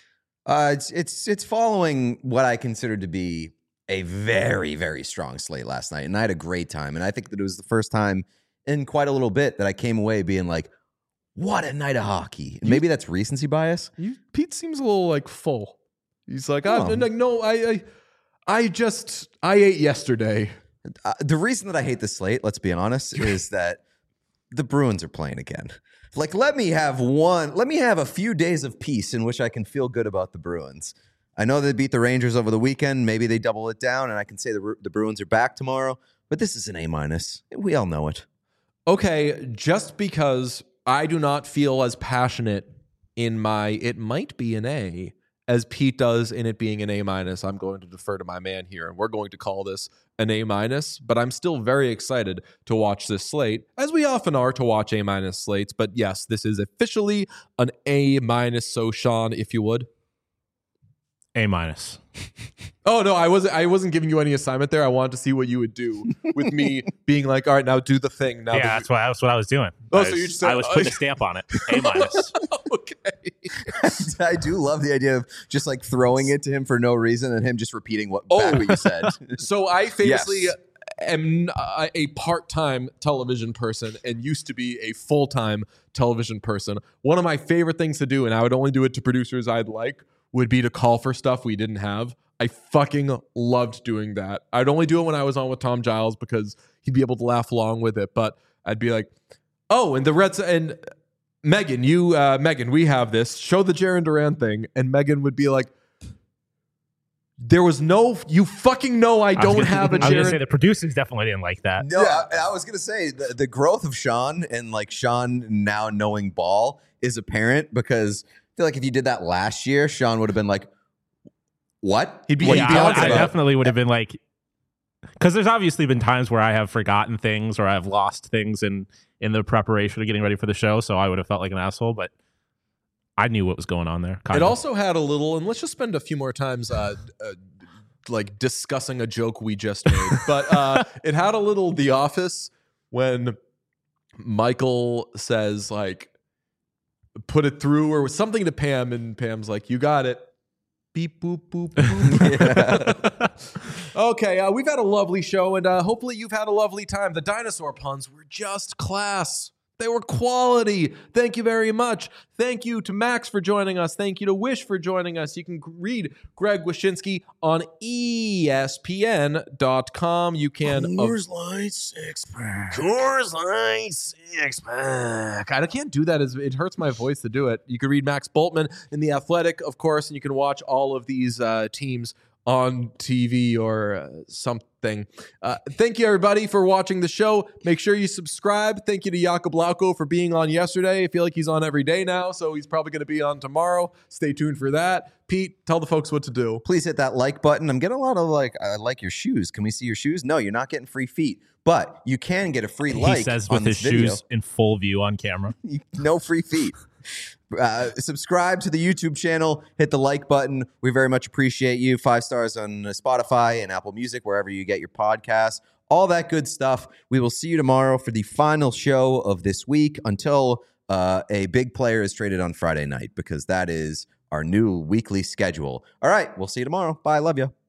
It's following what I considered to be a very, very strong slate last night, and I had a great time. And I think that it was the first time in quite a little bit that I came away being like, "What a night of hockey!" And maybe that's recency bias. Pete seems a little like full. He's like, no, I ate yesterday. The reason that I hate the slate, let's be honest, is that the Bruins are playing again. Like, let me have a few days of peace in which I can feel good about the Bruins. I know they beat the Rangers over the weekend. Maybe they double it down, and I can say the Bruins are back tomorrow. But this is an A-. We all know it. Okay, just because I do not feel as passionate in my it might be an A as Pete does in it being an A-, I'm going to defer to my man here, and we're going to call this an A-, but I'm still very excited to watch this slate, as we often are to watch A- slates. But yes, this is officially an A-, so Sean, if you would. A-. Oh no, I wasn't giving you any assignment there. I wanted to see what you would do with me being like, all right, now do the thing. Now that's what I was doing. Oh, so you just said, I was putting a stamp on it. A-. Okay. I do love the idea of just like throwing it to him for no reason and him just repeating back what you said. So I famously am a part-time television person and used to be a full-time television person. One of my favorite things to do, and I would only do it to producers I'd like, would be to call for stuff we didn't have. I fucking loved doing that. I'd only do it when I was on with Tom Giles because he'd be able to laugh along with it. But I'd be like, oh, and the Reds and Megan, Megan, we have this. Show the Jarren Duran thing. And Megan would be like, there was no, you fucking know I don't have a Jarren. I was going to say the producers definitely didn't like that. No, I was going to say the growth of Sean and like Sean now knowing ball is apparent because I feel like if you did that last year, Sean would have been like, What? He'd be Yeah, Beyonce. I definitely would have been like, because there's obviously been times where I have forgotten things or I've lost things in the preparation of getting ready for the show, so I would have felt like an asshole, but I knew what was going on there. It also had a little, and let's just spend a few more times like discussing a joke we just made, but it had a little The Office when Michael says like, put it through or something to Pam, and Pam's like, you got it. Beep, boop, boop, boop. Okay, we've had a lovely show, and hopefully you've had a lovely time. The dinosaur puns were just class. They were quality. Thank you very much. Thank you to Max for joining us. Thank you to Wish for joining us. You can read Greg Wyshynski on ESPN.com. You can... Coors Light Six-Pack. Coors Light Six-Pack. I can't do that. It hurts my voice to do it. You can read Max Bultman in The Athletic, of course, and you can watch all of these teams on TV or something. Thank you, everybody, for watching the show. Make sure you subscribe. Thank you to Jakob Lauko for being on yesterday. I feel like he's on every day now, so he's probably going to be on tomorrow. Stay tuned for that. Pete, tell the folks what to do. Please hit that like button. I'm getting a lot of I like your shoes. Can we see your shoes? No, you're not getting free feet, but you can get a free like. He says with his shoes in full view on camera. No free feet. Subscribe to the YouTube channel, hit the like button. We very much appreciate you. 5 stars on Spotify and Apple Music, wherever you get your podcasts, all that good stuff. We will see you tomorrow for the final show of this week until a big player is traded on Friday night, because that is our new weekly schedule. All right, we'll see you tomorrow. Bye. Love you.